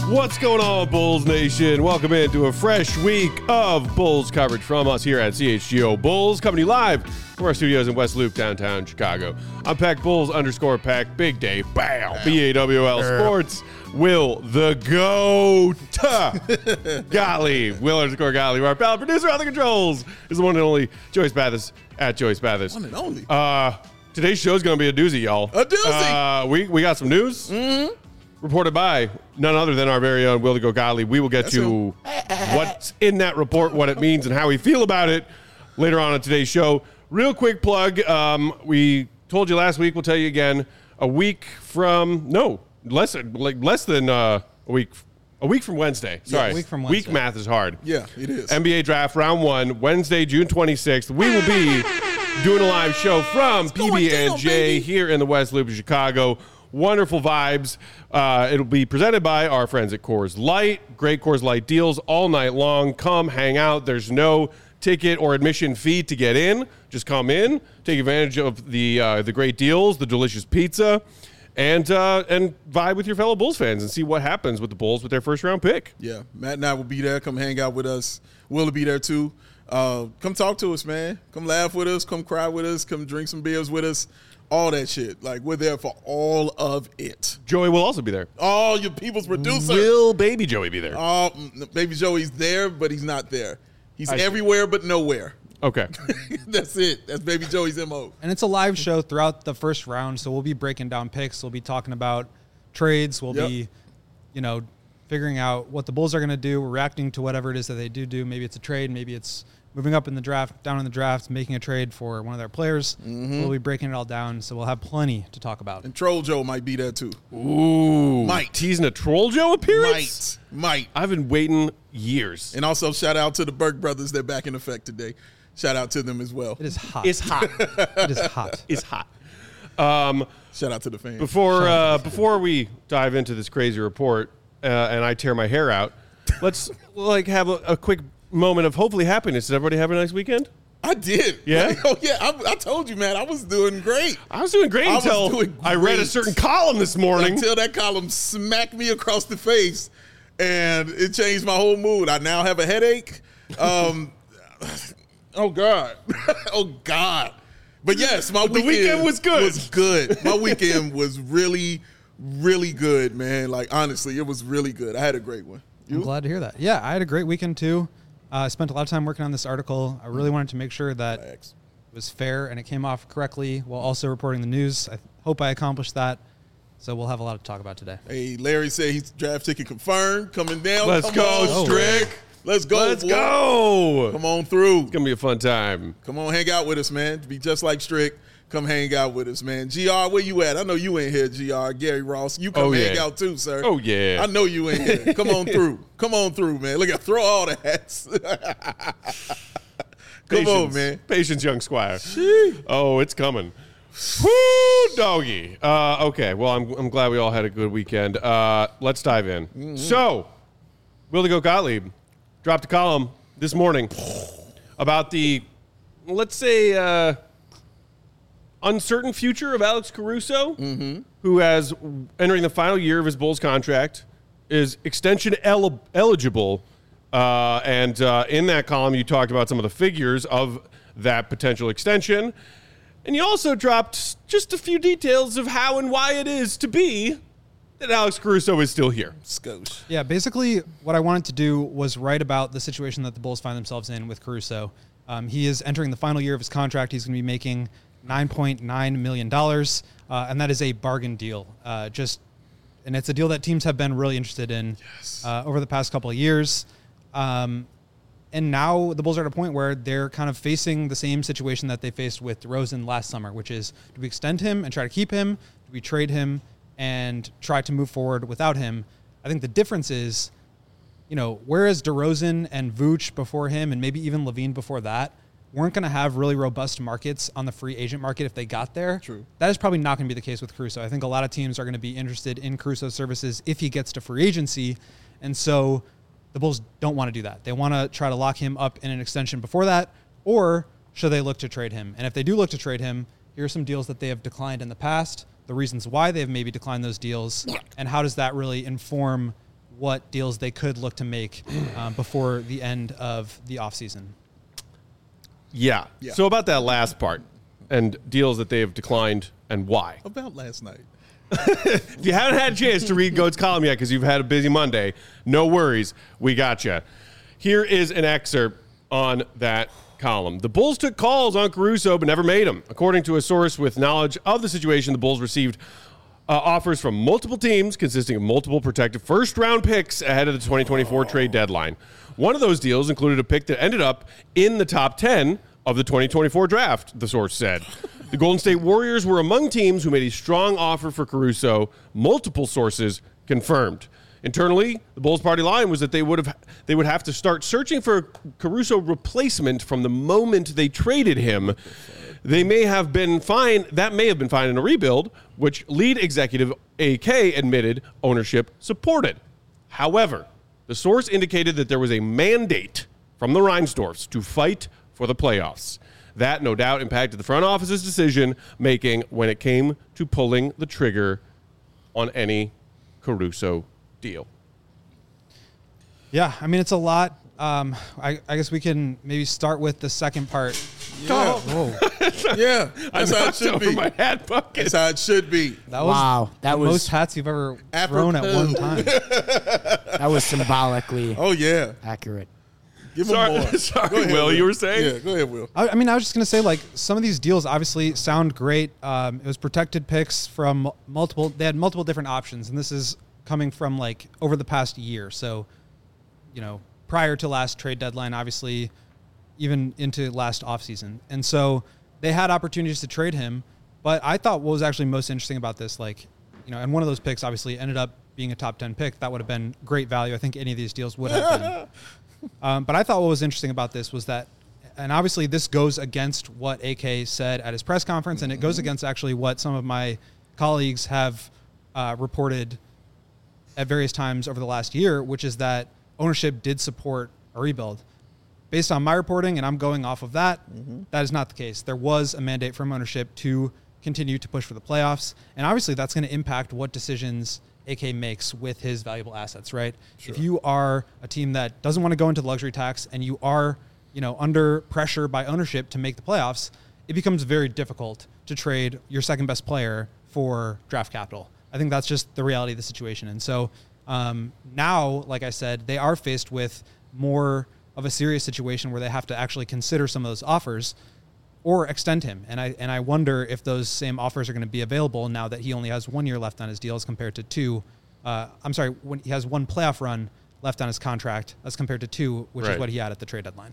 What's going on, Bulls Nation? Welcome into a fresh week of Bulls coverage from us here at CHGO Bulls, coming to you live from our studios in West Loop, downtown Chicago. I'm Pack Bulls _ Big Dave, BAM, BAWL Sports, Will the GOAT, Gottlieb, Will _ Gottlieb, our pal producer on the controls is the one and only Joyce Bathis at Joyce Bathis. One and only. Today's show is going to be a doozy, y'all. A doozy. We got some news. Mm-hmm. Reported by none other than our very own Will the GOAT Gottlieb. We will get to what's in that report, what it means, and how we feel about it later on in today's show. Real quick plug. We told you last week. We'll tell you again. Less than a week. A week from Wednesday. Sorry. A week from Wednesday. Week math is hard. Yeah, it is. NBA Draft Round 1, Wednesday, June 26th. We will be doing a live show from PB&J here in the West Loop of Chicago. Wonderful vibes. It'll be presented by our friends at Coors Light. Great Coors Light deals all night long. Come hang out. There's no ticket or admission fee to get in. Just come in, take advantage of the great deals, the delicious pizza, and vibe with your fellow Bulls fans and see what happens with the Bulls with their first round pick. Yeah, Matt and I will be there. Come hang out with us. Will be there too. Come talk to us, man. Come laugh with us. Come cry with us. Come drink some beers with us. All that shit. Like, we're there for all of it. Joey will also be there. Oh, your people's producer. Will Baby Joey be there? Oh, Baby Joey's there, but he's not there. He's everywhere but nowhere. Okay. That's it. That's Baby Joey's MO. And it's a live show throughout the first round, so we'll be breaking down picks. We'll be talking about trades. We'll be, figuring out what the Bulls are going to do. We're reacting to whatever it is that they do. Maybe it's a trade. Maybe it's moving up in the draft, down in the draft, making a trade for one of their players. Mm-hmm. We'll be breaking it all down, so we'll have plenty to talk about. And Troll Joe might be there too. Ooh. Might. Teasing a Troll Joe appearance? Might. I've been waiting years. And also shout out to the Burke brothers. They're back in effect today. Shout out to them as well. It is hot. It's hot. It is hot. It's hot. Shout out to the fans. Before we dive into this crazy report and I tear my hair out, let's have a quick moment of hopefully happiness. Did everybody have a nice weekend? I did. Yeah? I told you, man. I was doing great. I was doing great until I read a certain column this morning. Until that column smacked me across the face, and it changed my whole mood. I now have a headache. Oh, God. Oh, God. But, yes, my weekend was good. My weekend was really, really good, man. Like, honestly, it was really good. I had a great one. You? I'm glad to hear that. Yeah, I had a great weekend, too. I spent a lot of time working on this article. I really wanted to make sure that it was fair and it came off correctly while also reporting the news. I hope I accomplished that. So we'll have a lot to talk about today. Hey, Larry said he's draft ticket confirmed. Coming down. Let's go, Strick. Let's go. Let's go. Come on through. It's going to be a fun time. Come on, hang out with us, man. To be just like Strick, come hang out with us, man. GR, where you at? I know you ain't here, GR. Gary Ross, you come hang out too, sir. Oh, yeah. I know you ain't here. Come on through. Come on through, man. Look at throw all the hats. Come on, man. Patience, young squire. Oh, it's coming. Woo, doggy. Okay, well, I'm glad we all had a good weekend. Let's dive in. Mm-hmm. So, Will the GOAT Gottlieb dropped a column this morning about the, let's say, uncertain future of Alex Caruso, who has entering the final year of his Bulls contract, is extension eligible. And in that column, you talked about some of the figures of that potential extension. And you also dropped just a few details of how and why it is to be that Alex Caruso is still here. Skosh. Yeah, basically what I wanted to do was write about the situation that the Bulls find themselves in with Caruso. He is entering the final year of his contract. He's going to be making $9.9 million, and that is a bargain deal. And it's a deal that teams have been really interested in over the past couple of years. And now the Bulls are at a point where they're kind of facing the same situation that they faced with DeRozan last summer, which is, do we extend him and try to keep him? Do we trade him and try to move forward without him? I think the difference is, whereas DeRozan and Vooch before him and maybe even Levine before that weren't going to have really robust markets on the free agent market if they got there. True. That is probably not going to be the case with Caruso. I think a lot of teams are going to be interested in Caruso's services if he gets to free agency. And so the Bulls don't want to do that. They want to try to lock him up in an extension before that, or should they look to trade him? And if they do look to trade him, here are some deals that they have declined in the past, the reasons why they have maybe declined those deals, and how does that really inform what deals they could look to make before the end of the offseason. Yeah. So about that last part and deals that they have declined and why. About last night. If you haven't had a chance to read Goat's column yet because you've had a busy Monday, no worries. We got you. Here is an excerpt on that column. The Bulls took calls on Caruso but never made them. According to a source with knowledge of the situation, the Bulls received offers from multiple teams consisting of multiple protected first-round picks ahead of the 2024 trade deadline. One of those deals included a pick that ended up in the top 10 of the 2024 draft, the source said. The Golden State Warriors were among teams who made a strong offer for Caruso, multiple sources confirmed. Internally, the Bulls' party line was that they would have to start searching for a Caruso replacement from the moment they traded him. They may have been fine. That may have been fine in a rebuild, which lead executive AK admitted ownership supported. However, the source indicated that there was a mandate from the Reinsdorfs to fight for the playoffs. That no doubt impacted the front office's decision making when it came to pulling the trigger on any Caruso deal. Yeah, I mean, it's a lot. I guess we can maybe start with the second part. Yeah. Whoa. Yeah. That's how it should be. My hat bucket. That's how it should be. That was Wow, that the was- most hats you've ever thrown at one time. That was symbolically Oh, yeah. accurate. Give him more. Sorry, Go ahead, Will, you were saying? Yeah, go ahead, Will. I mean, I was just going to say, like, some of these deals obviously sound great. It was protected picks from multiple. They had multiple different options, and this is coming from, like, over the past year. So, you know, prior to last trade deadline, obviously, even into last offseason. And so they had opportunities to trade him. But I thought what was actually most interesting about this, like, you know, and one of those picks obviously ended up being a top 10 pick. That would have been great value. I think any of these deals would have been. But I thought what was interesting about this was that, and obviously this goes against what AK said at his press conference, and it goes against actually what some of my colleagues have reported at various times over the last year, which is that ownership did support a rebuild. Based on my reporting, and I'm going off of that, that is not the case. There was a mandate from ownership to continue to push for the playoffs, and obviously that's going to impact what decisions AK makes with his valuable assets, right? Sure. If you are a team that doesn't want to go into the luxury tax and you are, you know, under pressure by ownership to make the playoffs, it becomes very difficult to trade your second best player for draft capital. I think that's just the reality of the situation. And so now, like I said, they are faced with more of a serious situation where they have to actually consider some of those offers or extend him. And I wonder if those same offers are going to be available now that he only has 1 year left on his deal as compared to two. When he has one playoff run left on his contract as compared to two, which is what he had at the trade deadline.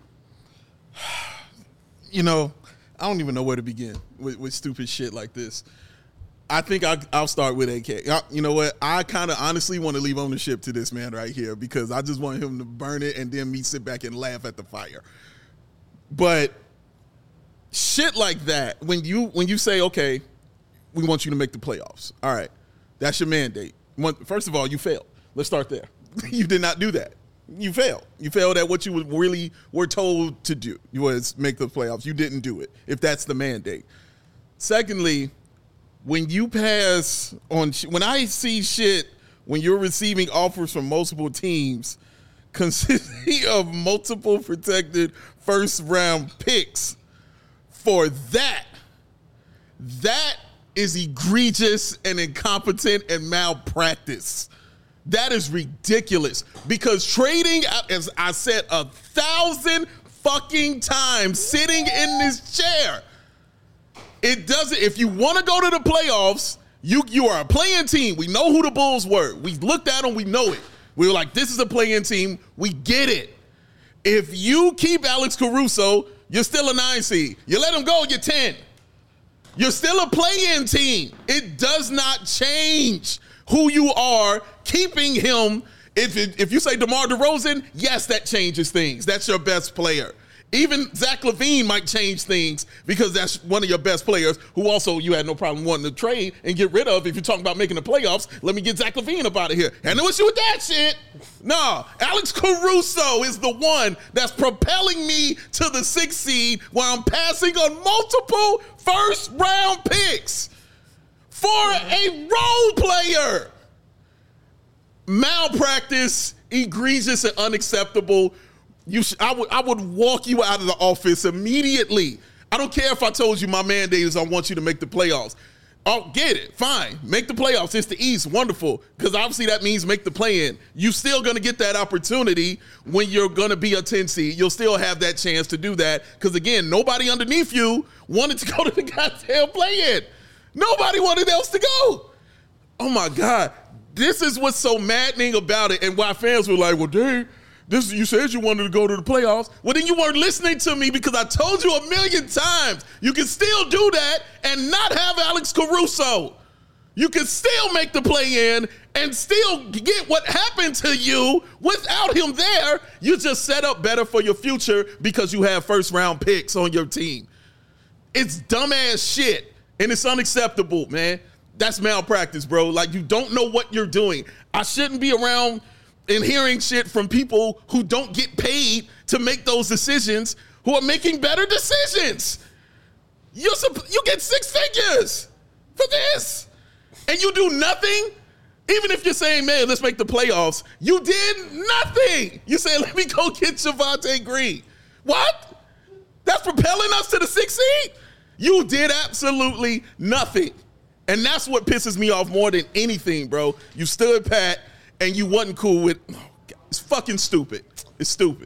You know, I don't even know where to begin with stupid shit like this. I think I'll start with AK. You know what? I kind of honestly want to leave ownership to this man right here because I just want him to burn it and then me sit back and laugh at the fire. But shit like that, when you say, okay, we want you to make the playoffs. All right, that's your mandate. First of all, you failed. Let's start there. You did not do that. You failed. You failed at what you really were told to do, was make the playoffs. You didn't do it, if that's the mandate. Secondly, when you pass on, when I see shit, when you're receiving offers from multiple teams consisting of multiple protected first-round picks, for that is egregious and incompetent and malpractice. That is ridiculous because trading, as I said 1,000 fucking times sitting in this chair, it doesn't, if you want to go to the playoffs, you are a play-in team. We know who the Bulls were. We looked at them, we know it. We were like, this is a play-in team. We get it. If you keep Alex Caruso, you're still a 9 seed. You let him go, you're 10. You're still a play-in team. It does not change who you are keeping him. If you say DeMar DeRozan, yes, that changes things. That's your best player. Even Zach LaVine might change things because that's one of your best players who also you had no problem wanting to trade and get rid of. If you're talking about making the playoffs, let me get Zach LaVine up out of here. And no issue with that shit. No, Alex Caruso is the one that's propelling me to the 6th seed while I'm passing on multiple first-round picks for a role player. malpractice, egregious and unacceptable. I would walk you out of the office immediately. I don't care if I told you my mandate is I want you to make the playoffs. Oh, get it. Fine. Make the playoffs. It's the East. Wonderful. Because obviously that means make the play-in. You're still going to get that opportunity when you're going to be a 10 seed. You'll still have that chance to do that. Because, again, nobody underneath you wanted to go to the goddamn play-in. Nobody wanted else to go. Oh, my God. This is what's so maddening about it, and why fans were like, well, Dave, you said you wanted to go to the playoffs. Well, then you weren't listening to me, because I told you a million times you can still do that and not have Alex Caruso. You can still make the play-in and still get what happened to you without him there. You just set up better for your future because you have first-round picks on your team. It's dumbass shit, and it's unacceptable, man. That's malpractice, bro. Like, you don't know what you're doing. I shouldn't be around and hearing shit from people who don't get paid to make those decisions, who are making better decisions. You get 6 figures for this, and you do nothing. Even if you're saying, man, let's make the playoffs, you did nothing. You say, let me go get Javonte Green. What? That's propelling us to the 6th seed? You did absolutely nothing. And that's what pisses me off more than anything, bro. You stood pat, and you wasn't cool with. Oh God, it's fucking stupid. It's stupid.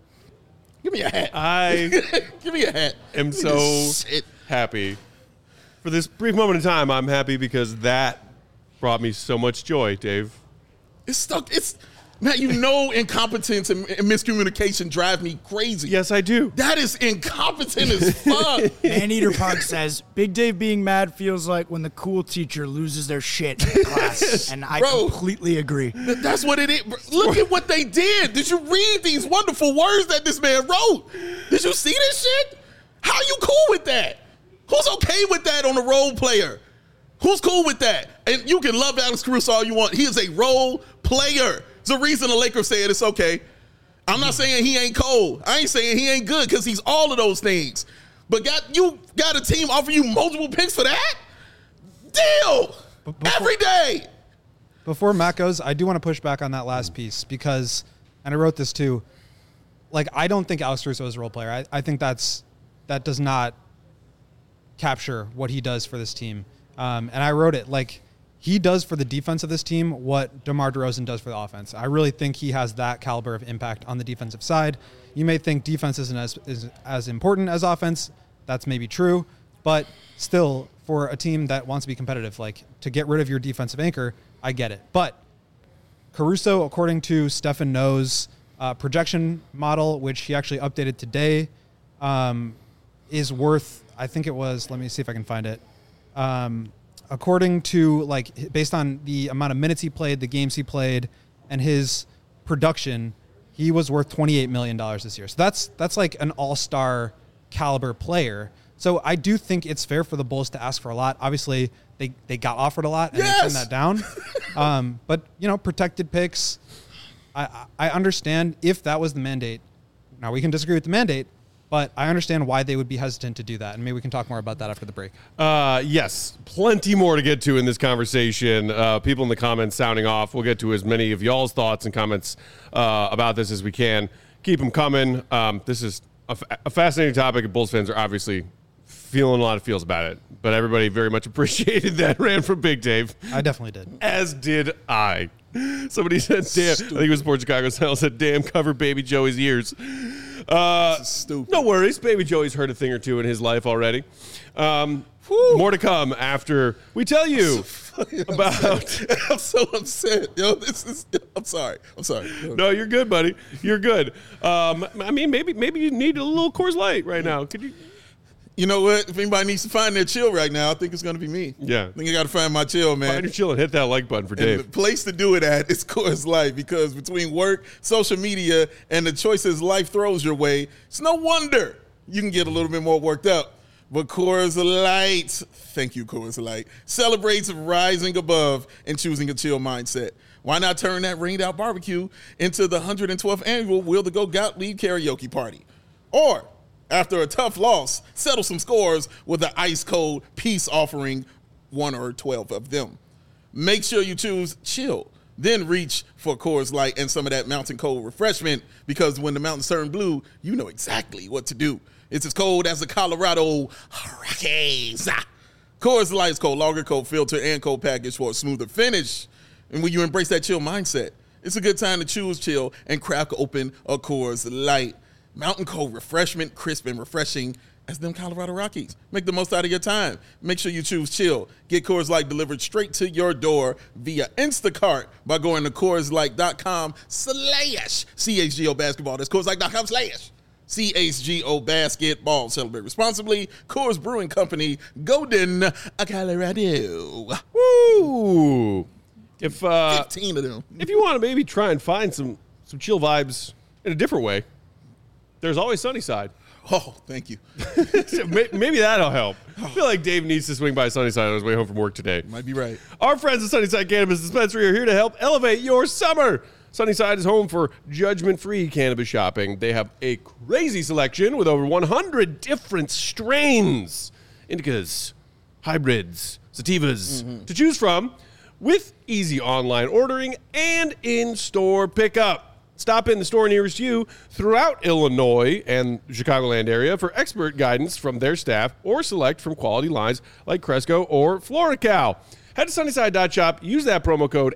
Give me a hat. Give me a hat. I'm so happy. For this brief moment in time, I'm happy because that brought me so much joy, Dave. It's stuck. Matt, incompetence and miscommunication drive me crazy. Yes, I do. That is incompetent as fuck. Maneater Punk says, Big Dave being mad feels like when the cool teacher loses their shit in class. And I completely agree. That's what it is. Look at what they did. Did you read these wonderful words that this man wrote? Did you see this shit? How are you cool with that? Who's okay with that on a role player? Who's cool with that? And you can love Alex Caruso all you want. He is a role player. There's a reason the Lakers said it's okay. I'm not saying he ain't cold. I ain't saying he ain't good, because he's all of those things. But you got a team offer you multiple picks for that? Deal! Every day! Before Matt goes, I do want to push back on that last piece because, and I wrote this too, like, I don't think Alex Caruso is a role player. I think that does not capture what he does for this team. And I wrote it, like, he does for the defense of this team what DeMar DeRozan does for the offense. I really think he has that caliber of impact on the defensive side. You may think defense isn't as important as offense. That's maybe true. But still, for a team that wants to be competitive, like, to get rid of your defensive anchor, I get it. But Caruso, according to Stefan No's projection model, which he actually updated today, is worth, I think it was, let me see if I can find it. According to, like, based on the amount of minutes he played, the games he played, and his production, he was worth $28 million this year. So that's like an all-star caliber player. So I do think it's fair for the Bulls to ask for a lot. Obviously, they got offered a lot and they turned that down. But, protected picks, I understand if that was the mandate. Now, we can disagree with the mandate, but I understand why they would be hesitant to do that, and maybe we can talk more about that after the break. Yes, plenty more to get to in this conversation. People in the comments sounding off. We'll get to as many of y'all's thoughts and comments about this as we can. Keep them coming. This is a fascinating topic, and Bulls fans are obviously feeling a lot of feels about it, but everybody very much appreciated that rant from Big Dave. I definitely did. As did I. Somebody said, damn, I think it was Sports Chicago style, said, damn, cover Baby Joey's ears. Stupid. No worries. Baby Joey's heard a thing or two in his life already. More to come after we tell you about. I'm so upset. Yo, I'm sorry. No, you're good, buddy. You're good. I mean, maybe you need a little Coors Light right now. Could you? You know what? If anybody needs to find their chill right now, I think it's going to be me. Yeah. I think I got to find my chill, man. Find your chill and hit that like button for Dave. The place to do it at is Coors Light, because between work, social media, and the choices life throws your way, it's no wonder you can get a little bit more worked up. But Coors Light, thank you, Coors Light, celebrates rising above and choosing a chill mindset. Why not turn that rained out barbecue into the 112th annual Will to Go Gottlieb karaoke party? Or, after a tough loss, settle some scores with an ice-cold peace offering, 1 or 12 of them. Make sure you choose chill then reach for Coors Light and some of that mountain cold refreshment, because when the mountains turn blue, you know exactly what to do. It's as cold as the Colorado Rockies. Coors Light is cold lager, cold filter, and cold package for a smoother finish. And when you embrace that chill mindset, it's a good time to choose chill and crack open a Coors Light. Mountain cold refreshment, crisp and refreshing as them Colorado Rockies. Make the most out of your time. Make sure you choose chill. Get Coors Light delivered straight to your door via Instacart by going to CoorsLight.com/CHGO basketball. That's CoorsLight.com/CHGO basketball. Celebrate responsibly. Coors Brewing Company, Golden, Colorado. Woo! If 15 of them. If you want to maybe try and find some chill vibes in a different way, there's always Sunnyside. Oh, thank you. Maybe that'll help. I feel like Dave needs to swing by Sunnyside on his way home from work today. Might be right. Our friends at Sunnyside Cannabis Dispensary are here to help elevate your summer. Sunnyside is home for judgment-free cannabis shopping. They have a crazy selection with over 100 different strains, indicas, hybrids, sativas to choose from, with easy online ordering and in-store pickup. Stop in the store nearest you throughout Illinois and the Chicagoland area for expert guidance from their staff, or select from quality lines like Cresco or FloraCal. Head to Sunnyside.shop. Use that promo code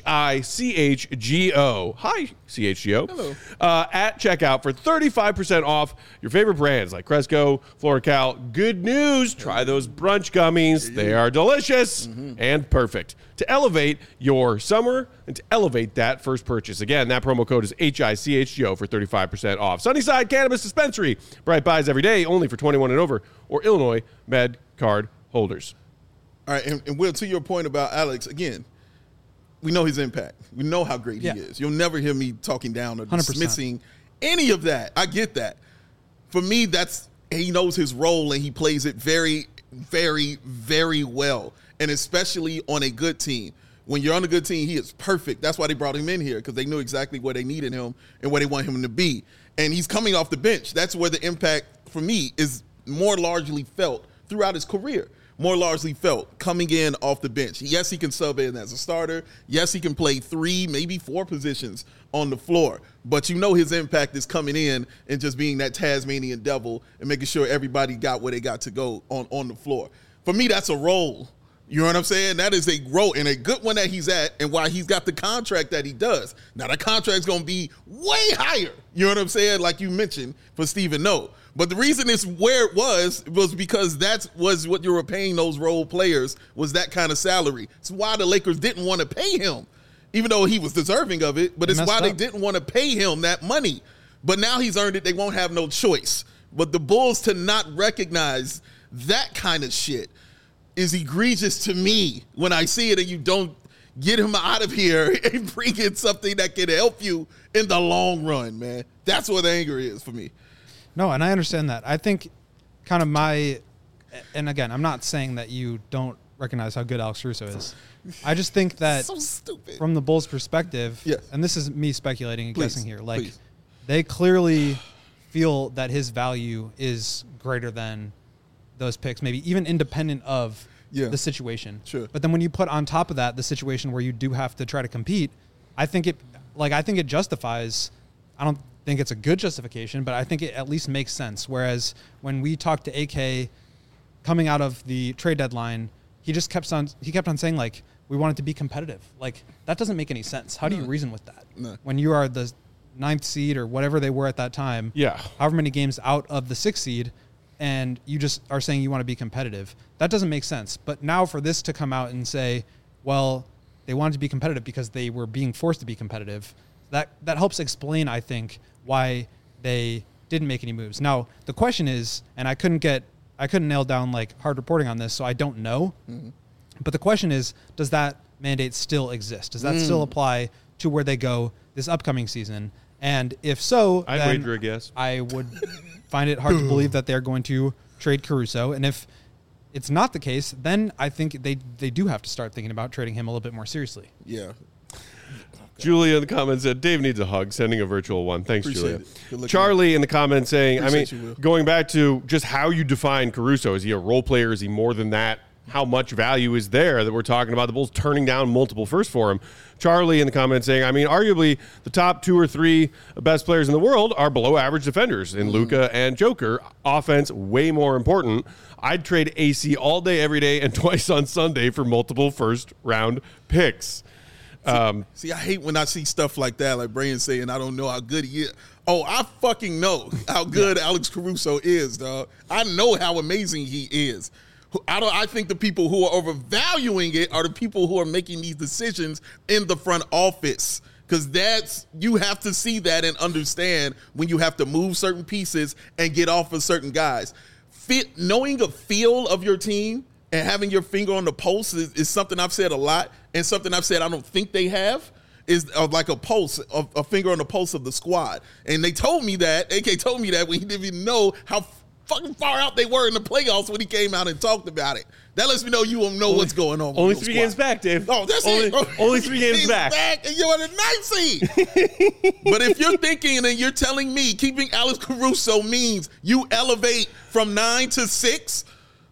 HICHGO. Hi, CHGO. Hello. At checkout for 35% off your favorite brands like Cresco, FloraCal. Good news. Try those brunch gummies. They are delicious and perfect to elevate your summer and to elevate that first purchase. Again, that promo code is HICHGO for 35% off. Sunnyside Cannabis Dispensary. Bright buys every day, only for 21 and over, or Illinois Med card holders. All right, and Will, to your point about Alex, again, we know his impact. We know how great he is. You'll never hear me talking down or 100%. dismissing any of that. I get that. For me, he knows his role, and he plays it very, very, very well, and especially on a good team. When you're on a good team, he is perfect. That's why they brought him in here, because they knew exactly where they needed him and where they want him to be. And he's coming off the bench. That's where the impact, for me, is more largely felt throughout his career. More largely felt coming in off the bench. Yes, he can sub in as a starter. Yes, he can play 3, maybe 4 positions on the floor. But you know his impact is coming in and just being that Tasmanian devil and making sure everybody got where they got to go on the floor. For me, that's a role. You know what I'm saying? That is a role, and a good one that he's at, and why he's got the contract that he does. Now, that contract's going to be way higher. You know what I'm saying? Like you mentioned, for Stephen No. But the reason it's where it was because that was what you were paying those role players, was that kind of salary. It's why the Lakers didn't want to pay him, even though he was deserving of it. But it's why they didn't want to pay him that money. But now he's earned it. They won't have no choice. But the Bulls to not recognize that kind of shit is egregious to me when I see it, and you don't get him out of here and bring in something that can help you in the long run, man. That's what anger is for me. No, and I understand that. I think kind of and again, I'm not saying that you don't recognize how good Alex Caruso is. I just think that so stupid. From the Bulls' perspective, yes. And this is me speculating and guessing here, like please. They clearly feel that his value is greater than those picks, maybe even independent of the situation. Sure. But then when you put on top of that the situation where you do have to try to compete, I think it justifies. I don't think it's a good justification, but I think it at least makes sense. Whereas when we talked to AK coming out of the trade deadline, he kept on saying, like, we want it to be competitive. Like, that doesn't make any sense. How do you reason with that? No. When you are the 9th seed or whatever they were at that time, however many games out of the 6th seed, and you just are saying you want to be competitive, that doesn't make sense. But now for this to come out and say, well, they wanted to be competitive because they were being forced to be competitive, that helps explain, I think, why they didn't make any moves. Now, the question is, and I couldn't nail down like hard reporting on this, so I don't know. Mm-hmm. But the question is, does that mandate still exist? Does that still apply to where they go this upcoming season? And if so, I'd wager a guess. I would find it hard to believe that they're going to trade Caruso. And if it's not the case, then I think they do have to start thinking about trading him a little bit more seriously. Yeah. Julia in the comments said, Dave needs a hug, sending a virtual one. Thanks, Appreciate Julia. Charlie in the comments saying, Appreciate you, Will. going back to just how you define Caruso, is he a role player? Is he more than that? how much value is there that we're talking about the Bulls turning down multiple firsts for him. Charlie in the comments saying, I mean, arguably the top 2 or 3 best players in the world are below average defenders in Luka and Joker. Offense, way more important. I'd trade AC all day, every day, and twice on Sunday for multiple first-round picks. See, I hate when I see stuff like that, like Brian saying, I don't know how good he is. Oh, I fucking know how good Alex Caruso is, dog. I know how amazing he is. I think the people who are overvaluing it are the people who are making these decisions in the front office. Because you have to see that and understand when you have to move certain pieces and get off of certain guys. Knowing a feel of your team and having your finger on the pulse is something I've said a lot, and something I've said I don't think they have is like a pulse, a finger on the pulse of the squad. And they told me that, AK told me that when he didn't even know how fucking far out they were in the playoffs when he came out and talked about it. That lets me know you don't know what's going on. Only 3 games back, Dave. Oh, that's it. Only 3 games back. And you're on the 9th seed. But if you're thinking and you're telling me keeping Alex Caruso means you elevate from 9 to 6,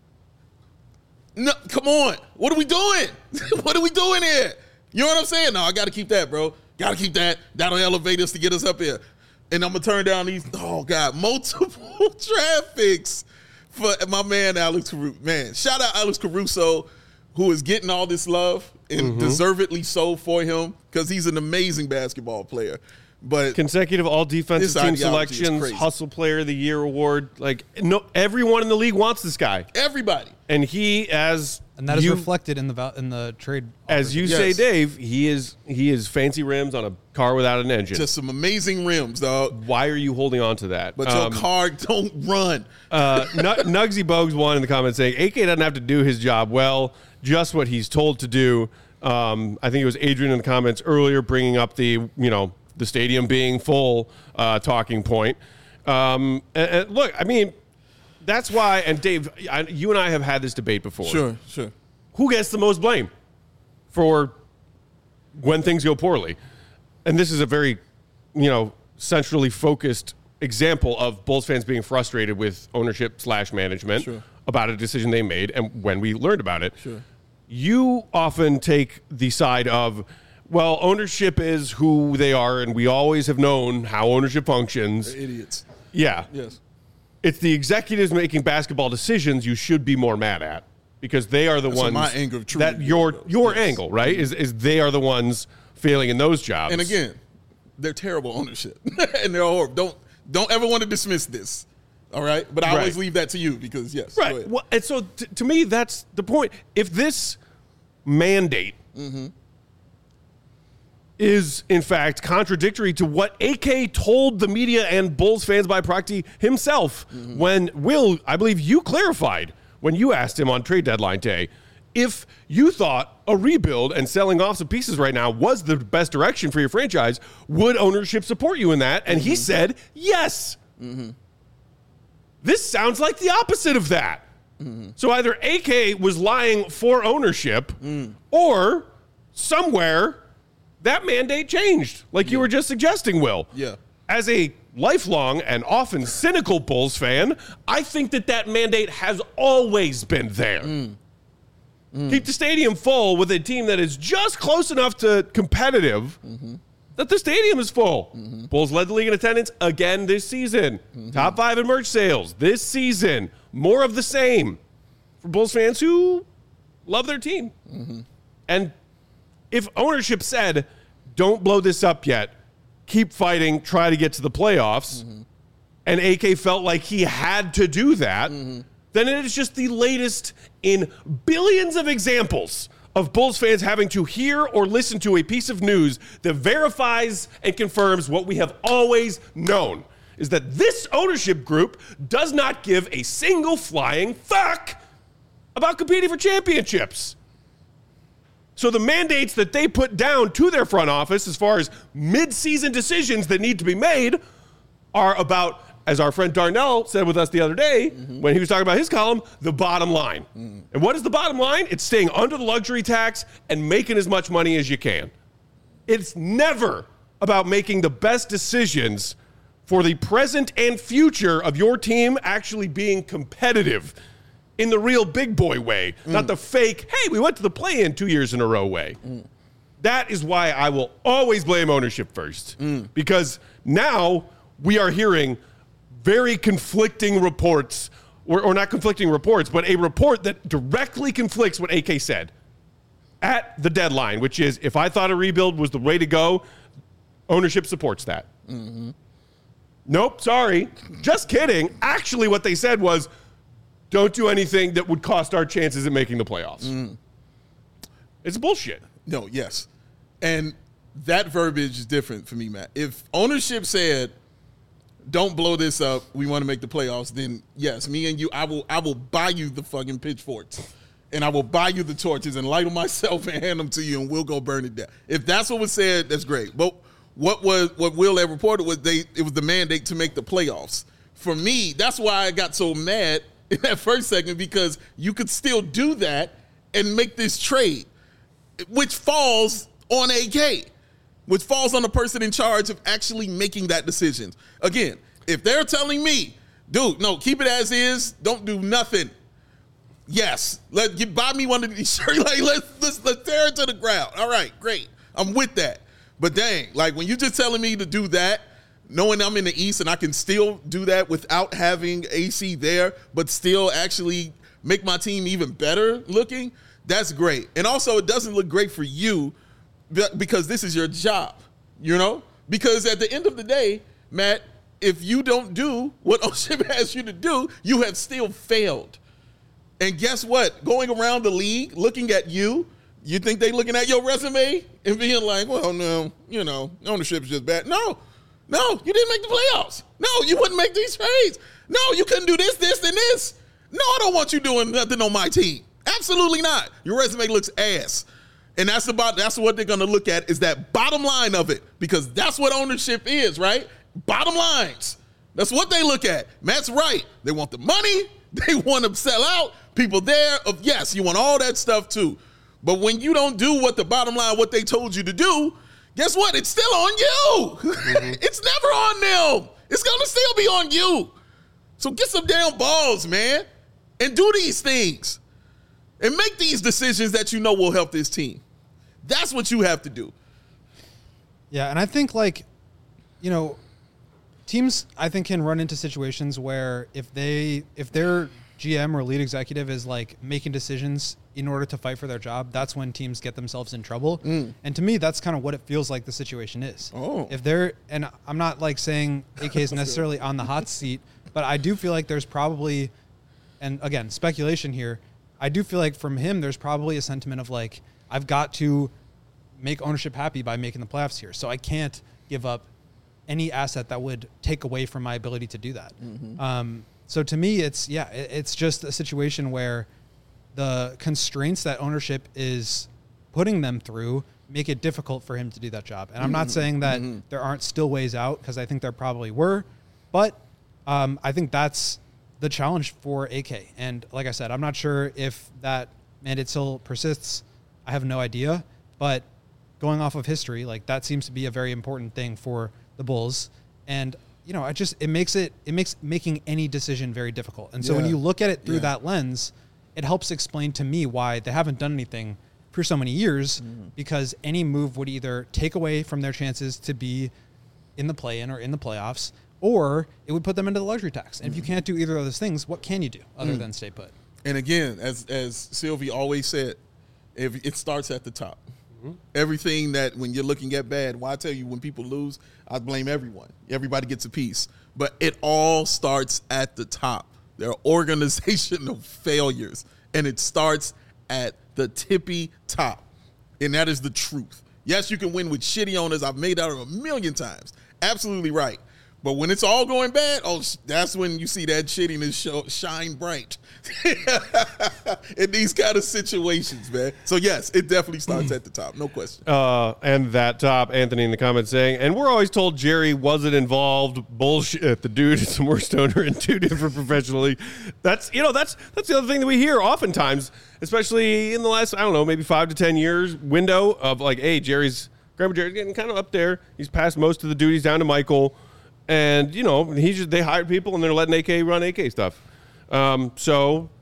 no, come on. What are we doing? What are we doing here? You know what I'm saying? No, I got to keep that, bro. Got to keep that. That'll elevate us to get us up here. And I'm going to turn down these, multiple draft picks for my man Alex Caruso. Man, shout out Alex Caruso, who is getting all this love, and deservedly so for him, because he's an amazing basketball player. But consecutive all defensive team selections, Hustle Player of the Year award. Like, no, everyone in the league wants this guy. Everybody. And he, and that is reflected in the trade. As you say, Dave, he is fancy rims on a car without an engine. Just some amazing rims, dog. Why are you holding on to that? But your car don't run. Nugsy Bogues one in the comments saying, AK doesn't have to do his job well, just what he's told to do. I think it was Adrian in the comments earlier bringing up the stadium being full talking point. And look, I mean, that's why, and Dave, you and I have had this debate before. Sure. Who gets the most blame for when things go poorly? And this is a very, centrally focused example of Bulls fans being frustrated with ownership / management about a decision they made and when we learned about it. Sure. You often take the side of, well, ownership is who they are, and we always have known how ownership functions. They're idiots. Yeah. Yes. It's the executives making basketball decisions you should be more mad at, because they are the ones my angle of truth. That your angle, right? Is they are the ones failing in those jobs. And again, they're terrible ownership, and they're horrible. Don't ever want to dismiss this. All right, but I always leave that to you because right. Well, and so to me, that's the point. If this mandate is in fact contradictory to what AK told the media and Bulls fans by proxy himself, when Will, I believe you clarified when you asked him on trade deadline day, if you thought a rebuild and selling off some pieces right now was the best direction for your franchise, would ownership support you in that? And he said yes. This sounds like the opposite of that. So either AK was lying for ownership or somewhere that mandate changed, like you were just suggesting, Will. Yeah. As a lifelong and often cynical Bulls fan, I think that mandate has always been there. Keep the stadium full with a team that is just close enough to competitive that the stadium is full. Bulls led the league in attendance again this season. Top 5 in merch sales this season. More of the same for Bulls fans who love their team. And if ownership said, don't blow this up yet, keep fighting, try to get to the playoffs, and AK felt like he had to do that, then it is just the latest in billions of examples of Bulls fans having to hear or listen to a piece of news that verifies and confirms what we have always known, is that this ownership group does not give a single flying fuck about competing for championships. So the mandates that they put down to their front office as far as mid-season decisions that need to be made are about, as our friend Darnell said with us the other day when he was talking about his column, the bottom line. And what is the bottom line? It's staying under the luxury tax and making as much money as you can. It's never about making the best decisions for the present and future of your team actually being competitive. in the real big boy way, not the fake, hey, we went to the play-in 2 years in a row way. That is why I will always blame ownership first. Because now we are hearing very conflicting reports, or not conflicting reports, but a report that directly conflicts what AK said at the deadline, which is, if I thought a rebuild was the way to go, ownership supports that. Nope, sorry. Just kidding. Actually, what they said was, don't do anything that would cost our chances at making the playoffs. It's bullshit. No, yes. And that verbiage is different for me, Matt. If ownership said, don't blow this up, we want to make the playoffs, then yes, me and you, I will buy you the fucking pitchforks. And I will buy you the torches and light them myself and hand them to you, and we'll go burn it down. If that's what was said, that's great. But what Will had reported was it was the mandate to make the playoffs. For me, that's why I got so mad in that first segment, because you could still do that and make this trade, which falls on AK, which falls on the person in charge of actually making that decision. Again, if they're telling me, dude, no, keep it as is, don't do nothing. Yes, buy me one of these shirts. Like, let's tear it to the ground. All right, great. I'm with that. But dang, like when you're just telling me to do that, knowing I'm in the East and I can still do that without having AC there, but still actually make my team even better looking, that's great. And also, it doesn't look great for you because this is your job, you know? Because at the end of the day, Matt, if you don't do what ownership has you to do, you have still failed. And guess what? Going around the league, looking at you think they looking at your resume and being like, well, no, you know, ownership's just bad. No, you didn't make the playoffs. No, you wouldn't make these trades. No, you couldn't do this, and this. No, I don't want you doing nothing on my team. Absolutely not. Your resume looks ass. And that's what they're going to look at, is that bottom line of it, because that's what ownership is, right? Bottom lines. That's what they look at. Matt's right. They want the money. They want to sell out. People there, yes, you want all that stuff too. But when you don't do what the bottom line, what they told you to do, guess what? It's still on you. It's never on them. It's going to still be on you. So get some damn balls, man, and do these things and make these decisions that you know will help this team. That's what you have to do. Yeah, and I think, like, you know, teams, I think, can run into situations where if their GM or lead executive is like making decisions in order to fight for their job, that's when teams get themselves in trouble. And to me, that's kind of what it feels like the situation is. If they're, and I'm not like saying AK is necessarily on the hot seat, but I do feel like there's probably, and again, speculation here, I do feel like from him, there's probably a sentiment of like, I've got to make ownership happy by making the playoffs here. So I can't give up any asset that would take away from my ability to do that. So to me, it's just a situation where the constraints that ownership is putting them through make it difficult for him to do that job. And I'm not saying that there aren't still ways out, because I think there probably were, but I think that's the challenge for AK. And like I said, I'm not sure if that mandate still persists. I have no idea, but going off of history, like that seems to be a very important thing for the Bulls. And you know, it makes making any decision very difficult. And so when you look at it through that lens, it helps explain to me why they haven't done anything for so many years, because any move would either take away from their chances to be in the play-in or in the playoffs, or it would put them into the luxury tax. And if you can't do either of those things, what can you do other than stay put? And again, as Sylvie always said, it starts at the top. Everything that when you're looking at bad, well, I tell you, when people lose, I blame everyone. Everybody gets a piece. But it all starts at the top. There are organizational failures, and it starts at the tippy top. And that is the truth. Yes, you can win with shitty owners. I've made that a million times. Absolutely right. But when it's all going bad, that's when you see that shittiness shine bright in these kind of situations, man. So, yes, it definitely starts at the top. No question. And that top, Anthony in the comments saying, and we're always told Jerry wasn't involved. Bullshit. The dude is the worst owner in two different professional leagues. That's the other thing that we hear oftentimes, especially in the last, I don't know, maybe 5 to 10 years window of like, hey, Grandpa Jerry's getting kind of up there. He's passed most of the duties down to Michael. And, you know, they hired people and they're letting AK run AK stuff. So,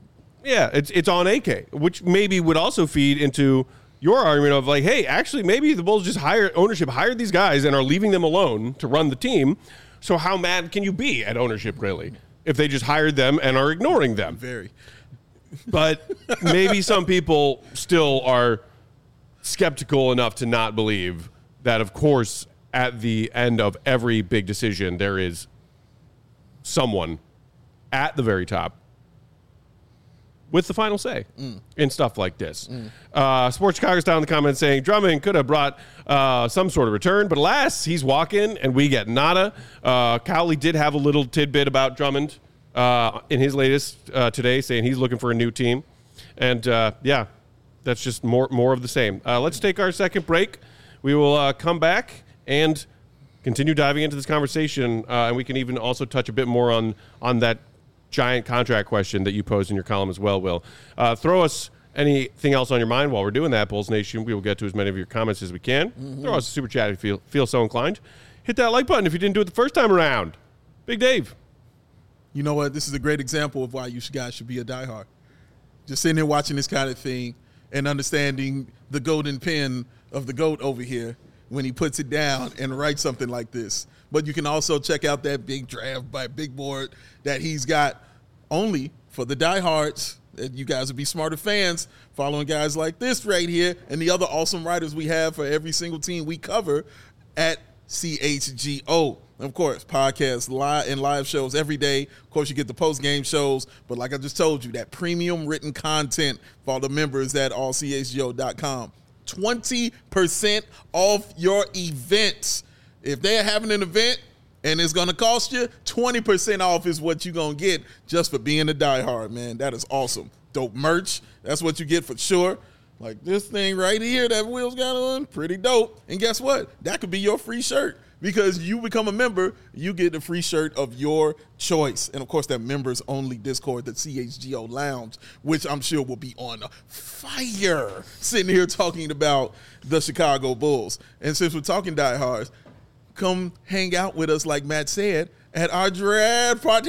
Yeah, it's on AK, which maybe would also feed into your argument of like, hey, actually, maybe the Bulls just ownership hired these guys and are leaving them alone to run the team. So how mad can you be at ownership, really, if they just hired them and are ignoring them? Very. But maybe some people still are skeptical enough to not believe that, of course, at the end of every big decision, there is someone at the very top with the final say in stuff like this. Sports Chicago's down in the comments saying Drummond could have brought some sort of return, but alas, he's walking and we get nada. Cowley did have a little tidbit about Drummond in his latest today, saying he's looking for a new team. And yeah, that's just more of the same. Let's take our second break. We will come back and continue diving into this conversation, and we can even also touch a bit more on that giant contract question that you posed in your column as well, Will. Throw us anything else on your mind while we're doing that, Bulls Nation. We will get to as many of your comments as we can. Throw us a super chat if you feel so inclined. Hit that like button if you didn't do it the first time around. Big Dave. You know what? This is a great example of why you guys should be a diehard. Just sitting there watching this kind of thing and understanding the golden pen of the GOAT over here when he puts it down and writes something like this. But you can also check out that big draft by Big Board that he's got only for the diehards. You guys would be smarter fans following guys like this right here and the other awesome writers we have for every single team we cover at CHGO. Of course, podcasts and live shows every day. Of course, you get the post-game shows. But like I just told you, that premium written content for all the members at allchgo.com. 20% off your events. If they're having an event and it's going to cost you, 20% off is what you're going to get just for being a diehard, man. That is awesome. Dope merch. That's what you get for sure. Like this thing right here that Will's got on, pretty dope. And guess what? That could be your free shirt. Because you become a member, you get a free shirt of your choice. And, of course, that members-only Discord, the CHGO Lounge, which I'm sure will be on fire sitting here talking about the Chicago Bulls. And since we're talking diehards, come hang out with us, like Matt said, at our draft party.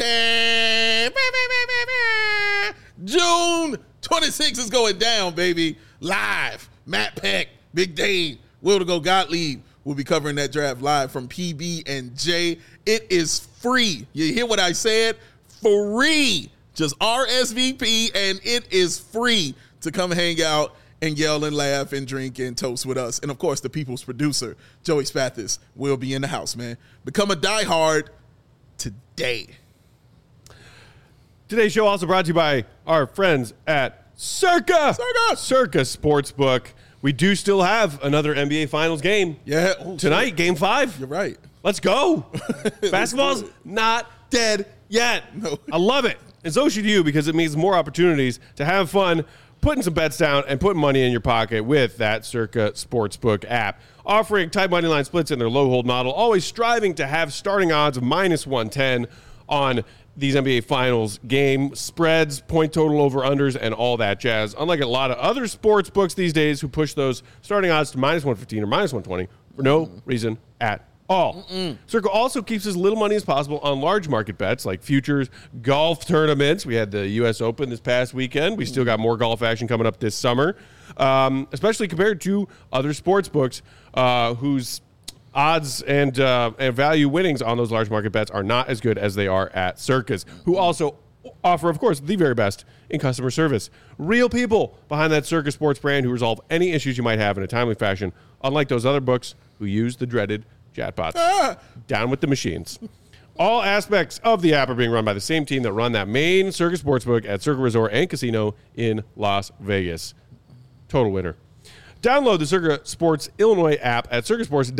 June 26th is going down, baby. Live. Matt Peck, Big Dave, Will to Go Gottlieb. We'll be covering that draft live from PB&J. It is free. You hear what I said? Free. Just RSVP, and it is free to come hang out and yell and laugh and drink and toast with us. And, of course, the people's producer, Joey Spathis, will be in the house, man. Become a diehard today. Today's show also brought to you by our friends at Circa Sportsbook. We do still have another NBA Finals game. Yeah. Tonight, Game 5. You're right. Let's go. Basketball's not dead yet. No. I love it. And so should you, because it means more opportunities to have fun, putting some bets down, and putting money in your pocket with that Circa Sportsbook app. Offering tight money line splits in their low hold model, always striving to have starting odds of -110 on these NBA Finals game spreads, point total over-unders, and all that jazz. Unlike a lot of other sports books these days who push those starting odds to -115 or -120 for no reason at all. Circa also keeps as little money as possible on large market bets like futures, golf tournaments. We had the U.S. Open this past weekend. We still got more golf action coming up this summer, especially compared to other sports books whose odds and value winnings on those large market bets are not as good as they are at Circa's, who also offer, of course, the very best in customer service. Real people behind that Circa Sports brand who resolve any issues you might have in a timely fashion, unlike those other books who use the dreaded chatbots. Down with the machines. All aspects of the app are being run by the same team that run that main Circa Sportsbook at Circa Resort and Casino in Las Vegas. Total winner. Download the Circa Sports Illinois app at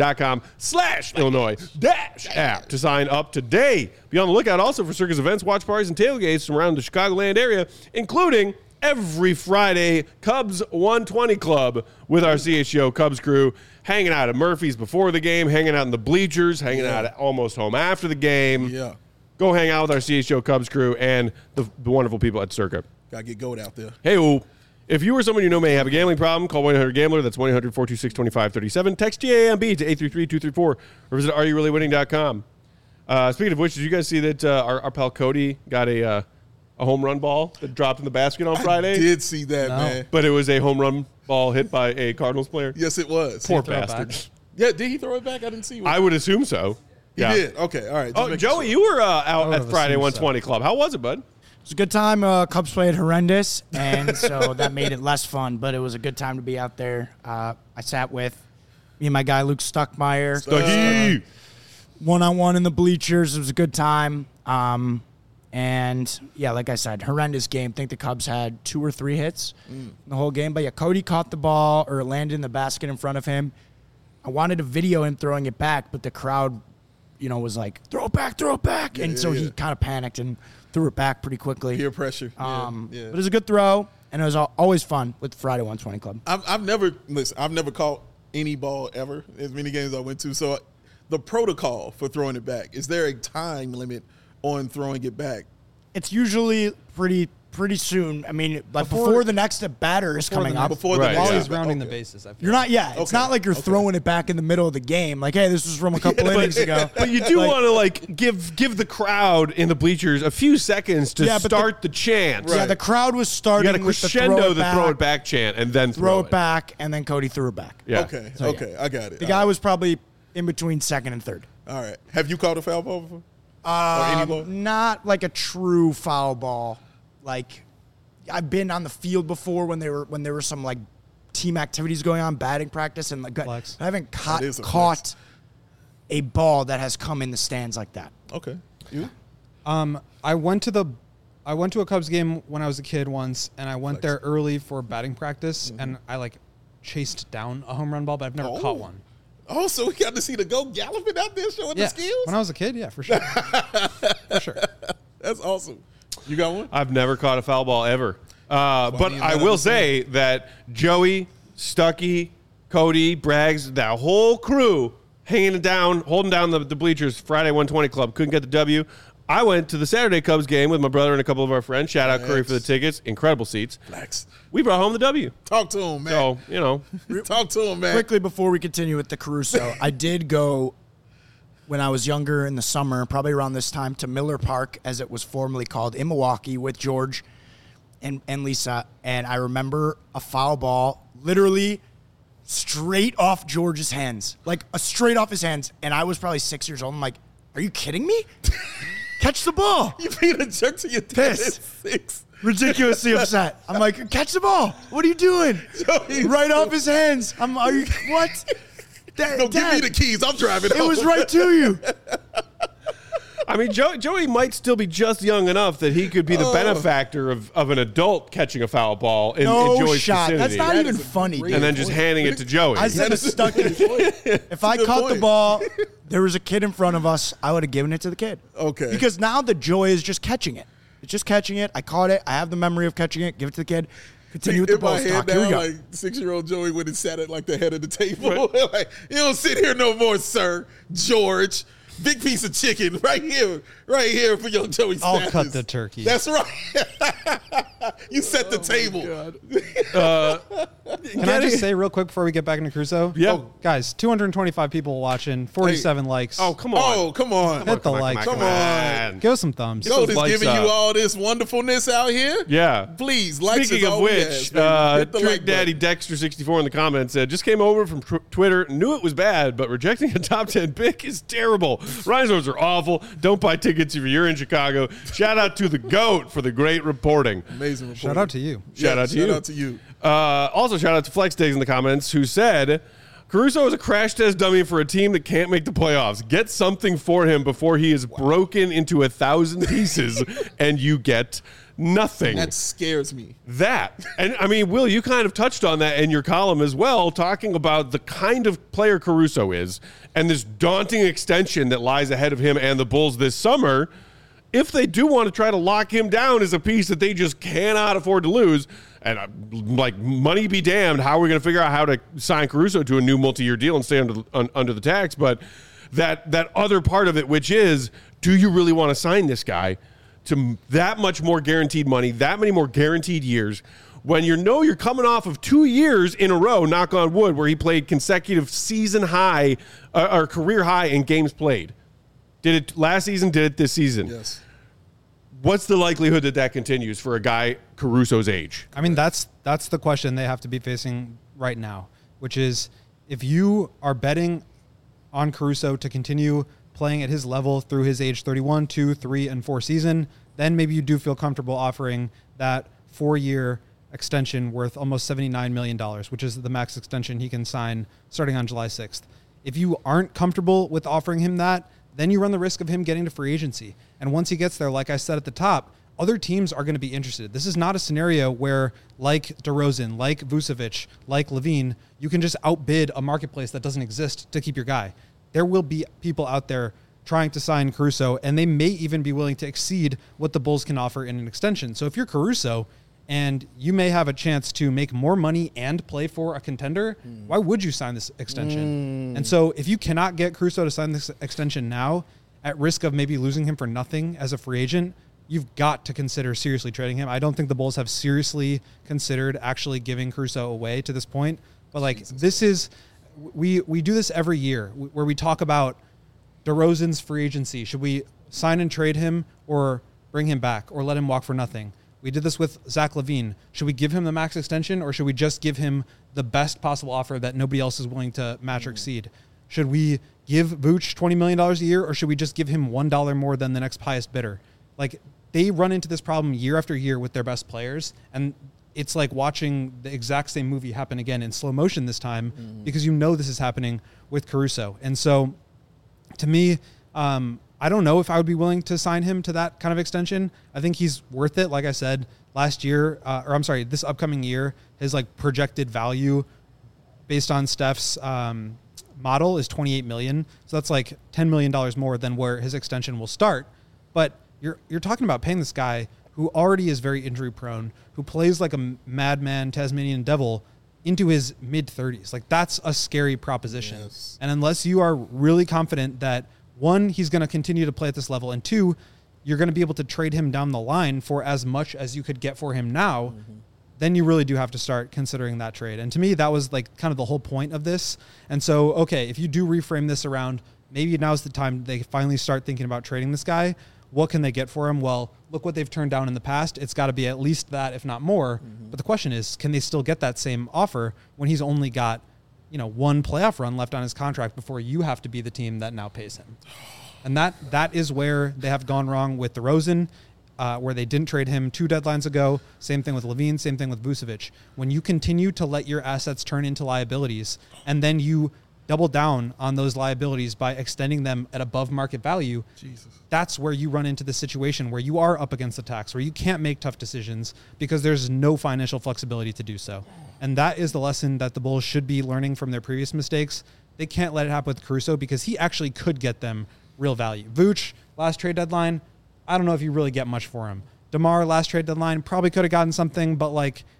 circasports.com/Illinois-app to sign up today. Be on the lookout also for Circa's events, watch parties, and tailgates from around the Chicagoland area, including every Friday Cubs 120 Club with our CHGO Cubs crew, hanging out at Murphy's before the game, hanging out in the bleachers, hanging out at Almost Home after the game. Yeah. Go hang out with our CHGO Cubs crew and the wonderful people at Circa. Got to get goat out there. Hey, if you or someone you know may have a gambling problem, call 1-800-GAMBLER. That's 1-800-426-2537. Text GAMB to 833-234 or visit areyourreallywinning.com. Speaking of which, did you guys see that our pal Cody got a a home run ball that dropped in the basket on Friday? I did see that, man. But it was a home run ball hit by a Cardinals player? Yes, it was. Poor throw it back? bastard. Yeah, did he throw it back? I didn't see. I would assume so. He did. Okay, all right. Just Oh, making Joey, sure. you were out would at have Friday assumed 120 Club. How was it, bud? It was a good time. Cubs played horrendous, and so that made it less fun. But it was a good time to be out there. I sat with me and my guy Luke Stuckmeyer, one-on-one in the bleachers. It was a good time. And yeah, like I said, horrendous game. I think the Cubs had 2 or 3 hits in the whole game. But yeah, Cody caught the ball or landed in the basket in front of him. I wanted to video him throwing it back, but the crowd, was like, throw it back. And so he kind of panicked and threw it back pretty quickly. Peer pressure. Yeah. But it was a good throw, and it was always fun with the Friday 120 Club. I've never caught any ball ever, as many games I went to. So the protocol for throwing it back, is there a time limit on throwing it back? It's usually pretty soon. I mean, like before the next batter is coming up. Before Right, the While yeah. he's rounding the Okay. bases, I feel You're not, yeah. It's Okay, not like you're throwing it back in the middle of the game. Like, hey, this was from a couple innings ago. But you do Like, want to give the crowd in the bleachers a few seconds to Yeah, but start the chant. Yeah, the crowd was You starting got a with crescendo the the throw it back chant and then throw it back, and then Cody threw it back. Yeah. Okay, So, yeah. okay, I got it. The guy was probably in between second and third. All right. Have you caught a foul ball before? Or any ball? Not like a true foul ball. Like, I've been on the field before when there were some like team activities going on, batting practice, and like Flex. I haven't That is a caught a ball that has come in the stands like that. Okay. You? I went to a Cubs game when I was a kid once, and I went there early for batting practice, and I like chased down a home run ball, but I've never caught one. Oh, so we got to see the goat galloping out there showing the Yeah, skills? when I was a kid, yeah, for sure, for sure. That's awesome. You got one? I've never caught a foul ball ever. But you I gotta will understand. say that Joey, Stuckey, Cody, Braggs, that whole crew holding down the bleachers, Friday 120 Club, couldn't get the W. I went to the Saturday Cubs game with my brother and a couple of our friends. Shout out Curry for the tickets. Incredible seats. Flex. We brought home the W. Talk to him, man. So, Talk to him, man. Quickly before we continue with the Caruso, I did go when I was younger in the summer, probably around this time, to Miller Park, as it was formerly called, in Milwaukee with George and Lisa. And I remember a foul ball literally straight off George's hands, like straight off his hands. And I was probably 6 years old. I'm like, are you kidding me? Catch the ball. You being a jerk to your dad at Pissed. 6. Ridiculously upset. I'm like, catch the ball. What are you doing? Joey's Right so- off his hands. Are you, what? Dad, No, give me the keys. I'm driving It home. was right to you. I mean, Joey might still be just young enough that he could be the benefactor of an adult catching a foul ball in No Joey's shot. vicinity. That's not That even is a funny. great and then dude. just handing it to Joey. I said That it's is a stuck in. good If I Good caught the point. ball, there was a kid in front of us, I would have given it to the kid. Okay. Because now the joy is just catching it. It's just catching it. I caught it. I have the memory of catching it. Give it to the kid. Continue with the in my ball head stock. Here we now, go. like 6-year-old Joey went and sat at like the head of the table. Like, you don't sit here no more, sir. George. Big piece of chicken right here for young Joey I'll Stathis. cut the turkey. That's right. You set the table. Can I just say real quick before we get back into Crusoe? Yeah. Oh, guys, 225 people watching, 47 likes. Oh, come on. Oh, come on. Hit the like. Come on. Give us some thumbs. Goat is likes giving up. you all this wonderfulness out here. Yeah. Please, likes Speaking is of all we which, ask, baby. Hit the Trick like Daddy button. Dexter64 in the comments said, just came over from Twitter, knew it was bad, but rejecting a top 10 pick is terrible. Rhinos are awful. Don't buy tickets if you're in Chicago. Shout out to the GOAT for the great reporting. Amazing report. Shout out to you. Shout out to you. Shout out to you. Also, shout out to Flex Days in the comments who said, Caruso is a crash test dummy for a team that can't make the playoffs. Get something for him before he is broken into 1,000 pieces and you get nothing. That scares me. That. And I mean, Will, you kind of touched on that in your column as well, talking about the kind of player Caruso is and this daunting extension that lies ahead of him and the Bulls this summer. If they do want to try to lock him down as a piece that they just cannot afford to lose, and like money be damned, how are we going to figure out how to sign Caruso to a new multi-year deal and stay under the tax? But that other part of it, which is, do you really want to sign this guy to that much more guaranteed money, that many more guaranteed years, when you're coming off of 2 years in a row, knock on wood, where he played consecutive season high or career high in games played? Did it last season, did it this season? Yes. what's the likelihood that continues for a guy Caruso's age? I mean, that's the question they have to be facing right now, which is if you are betting on Caruso to continue playing at his level through his age 31, 2, 3, and 4 season, then maybe you do feel comfortable offering that 4-year extension worth almost $79 million, which is the max extension he can sign starting on July 6th. If you aren't comfortable with offering him that, then you run the risk of him getting to free agency. And once he gets there, like I said at the top, other teams are going to be interested. This is not a scenario where, like DeRozan, like Vucevic, like LaVine, you can just outbid a marketplace that doesn't exist to keep your guy. There will be people out there trying to sign Caruso, and they may even be willing to exceed what the Bulls can offer in an extension. So if you're Caruso and you may have a chance to make more money and play for a contender, why would you sign this extension? And so if you cannot get Caruso to sign this extension now, at risk of maybe losing him for nothing as a free agent, you've got to consider seriously trading him. I don't think the Bulls have seriously considered actually giving Caruso away to this point. But like this is, we do this every year where we talk about DeRozan's free agency. Should we sign and trade him or bring him back or let him walk for nothing? We did this with Zach LaVine. Should we give him the max extension or should we just give him the best possible offer that nobody else is willing to match or exceed? Should we give Vooch $20 million a year or should we just give him $1 more than the next highest bidder? Like they run into this problem year after year with their best players, and it's like watching the exact same movie happen again in slow motion this time because you know this is happening with Caruso. And so to me, I don't know if I would be willing to sign him to that kind of extension. I think he's worth it. Like I said, this upcoming year, his like projected value based on Steph's model is $28 million. So that's like $10 million more than where his extension will start. But you're talking about paying this guy who already is very injury prone, who plays like a madman Tasmanian devil into his mid-30s. Like that's a scary proposition. Yes. And unless you are really confident that one, he's going to continue to play at this level, and two, you're going to be able to trade him down the line for as much as you could get for him now, then you really do have to start considering that trade. And to me, that was like kind of the whole point of this. And so, okay, if you do reframe this around, maybe now's the time they finally start thinking about trading this guy. What can they get for him? Well, look what they've turned down in the past. It's got to be at least that, if not more. But the question is, can they still get that same offer when he's only got, one playoff run left on his contract before you have to be the team that now pays him? And that is where they have gone wrong with DeRozan, where they didn't trade him 2 deadlines ago. Same thing with LaVine, same thing with Vucevic. When you continue to let your assets turn into liabilities and then you double down on those liabilities by extending them at above market value, that's where you run into the situation where you are up against the tax, where you can't make tough decisions because there's no financial flexibility to do so. And that is the lesson that the Bulls should be learning from their previous mistakes. They can't let it happen with Caruso because he actually could get them real value. Vooch, last trade deadline, I don't know if you really get much for him. DeMar, last trade deadline, probably could have gotten something, but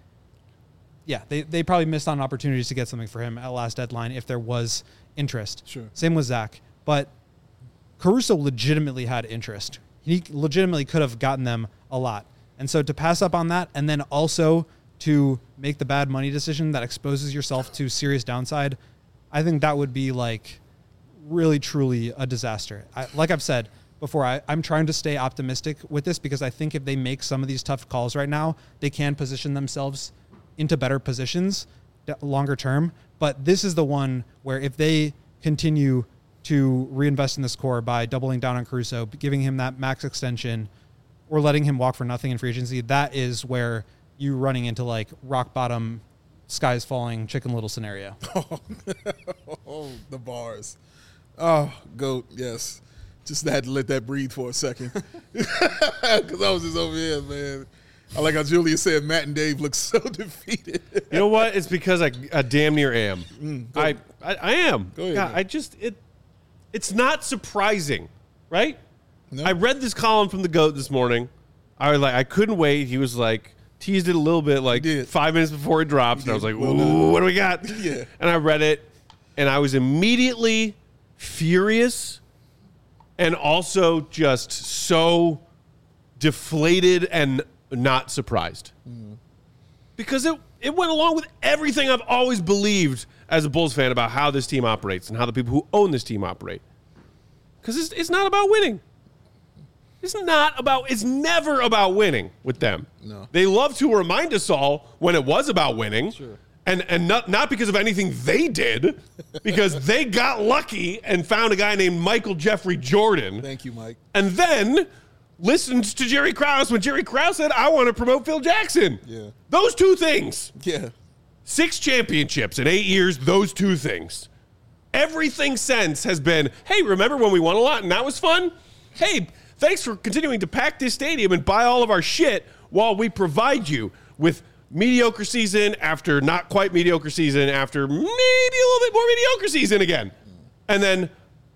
they probably missed on opportunities to get something for him at last deadline if there was interest. Sure. Same with Zach. But Caruso legitimately had interest. He legitimately could have gotten them a lot. And so to pass up on that and then also to make the bad money decision that exposes yourself to serious downside, I think that would be like really, truly a disaster. Like I've said before, I'm trying to stay optimistic with this because I think if they make some of these tough calls right now, they can position themselves into better positions longer term. But this is the one where if they continue to reinvest in this core by doubling down on Caruso, giving him that max extension, or letting him walk for nothing in free agency, that is where you running into like rock bottom, skies falling, Chicken Little scenario. Oh, the bars. Oh, GOAT, yes. Just had to let that breathe for a second. Because I was just over here, man. I like how Julia said Matt and Dave look so defeated. You know what? It's because I damn near am. I am. Go ahead. God, it's not surprising, right? No. I read this column from the GOAT this morning. I couldn't wait. He was like, teased it a little bit, like 5 minutes before it drops. And I was like, ooh, what do we got? Yeah. And I read it, and I was immediately furious and also just so deflated and not surprised. Because it went along with everything I've always believed as a Bulls fan about how this team operates and how the people who own this team operate. Because it's not about winning. It's never about winning with them. No. They love to remind us all when it was about winning. Sure. And not because of anything they did, because they got lucky and found a guy named Michael Jeffrey Jordan. Thank you, Mike. And then listened to Jerry Krause when Jerry Krause said, I want to promote Phil Jackson. Yeah. Those two things. Yeah. 6 championships in 8 years, those two things. Everything since has been, hey, remember when we won a lot and that was fun? Hey, thanks for continuing to pack this stadium and buy all of our shit while we provide you with mediocre season after not quite mediocre season after maybe a little bit more mediocre season again. And then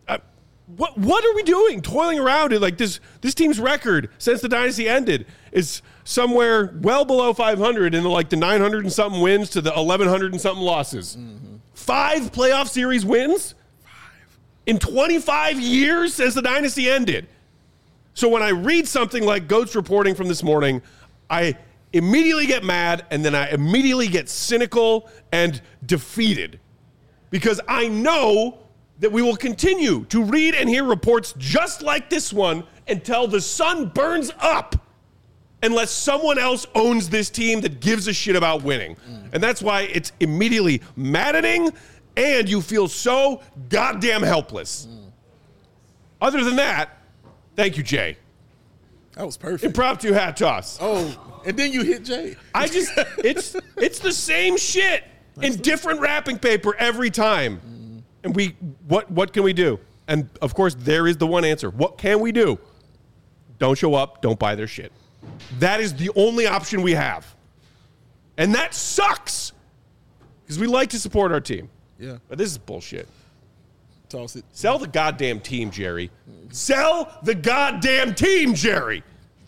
what are we doing? Toiling around it like this team's record since the dynasty ended is somewhere well below 500 in the 900 and something wins to the 1100 and something losses. 5 playoff series wins in 25 years since the dynasty ended. So when I read something like Goats reporting from this morning, I immediately get mad, and then I immediately get cynical and defeated because I know that we will continue to read and hear reports just like this one until the sun burns up unless someone else owns this team that gives a shit about winning. And that's why it's immediately maddening and you feel so goddamn helpless. Other than that, thank you, Jay. That was perfect. Impromptu hat toss. Oh, and then you hit Jay. It's the same shit in different wrapping paper every time. And what can we do? And of course, there is the one answer. What can we do? Don't show up. Don't buy their shit. That is the only option we have. And that sucks because we like to support our team. Yeah. But this is bullshit. Toss it. Sell the goddamn team, Jerry. Sell the goddamn team, Jerry.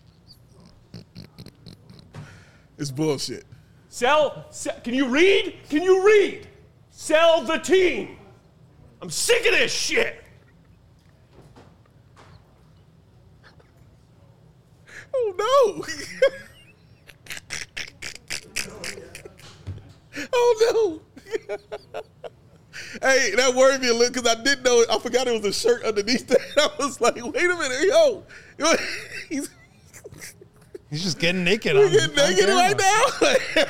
It's bullshit. Sell. Can you read? Can you read? Sell the team. I'm sick of this shit. Oh, no. Oh, no. Hey, that worried me a little because I didn't know it. I forgot it was a shirt underneath that. I was like, wait a minute, yo. He's just getting naked. Getting naked right now.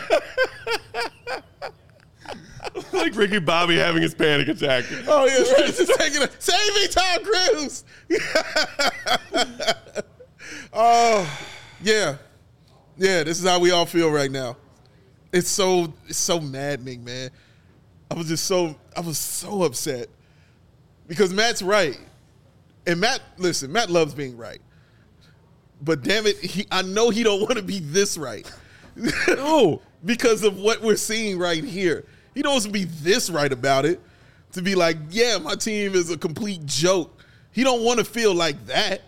Like Ricky Bobby having his panic attack. Oh, yeah, right. Just taking a save me, Tom Cruise. Oh, yeah. Yeah, this is how we all feel right now. It's so maddening, man. I was so upset because Matt's right. And Matt loves being right. But damn it, I know he don't want to be this right. No, because of what we're seeing right here. He don't want to be this right about it. To be like, yeah, my team is a complete joke. He don't want to feel like that.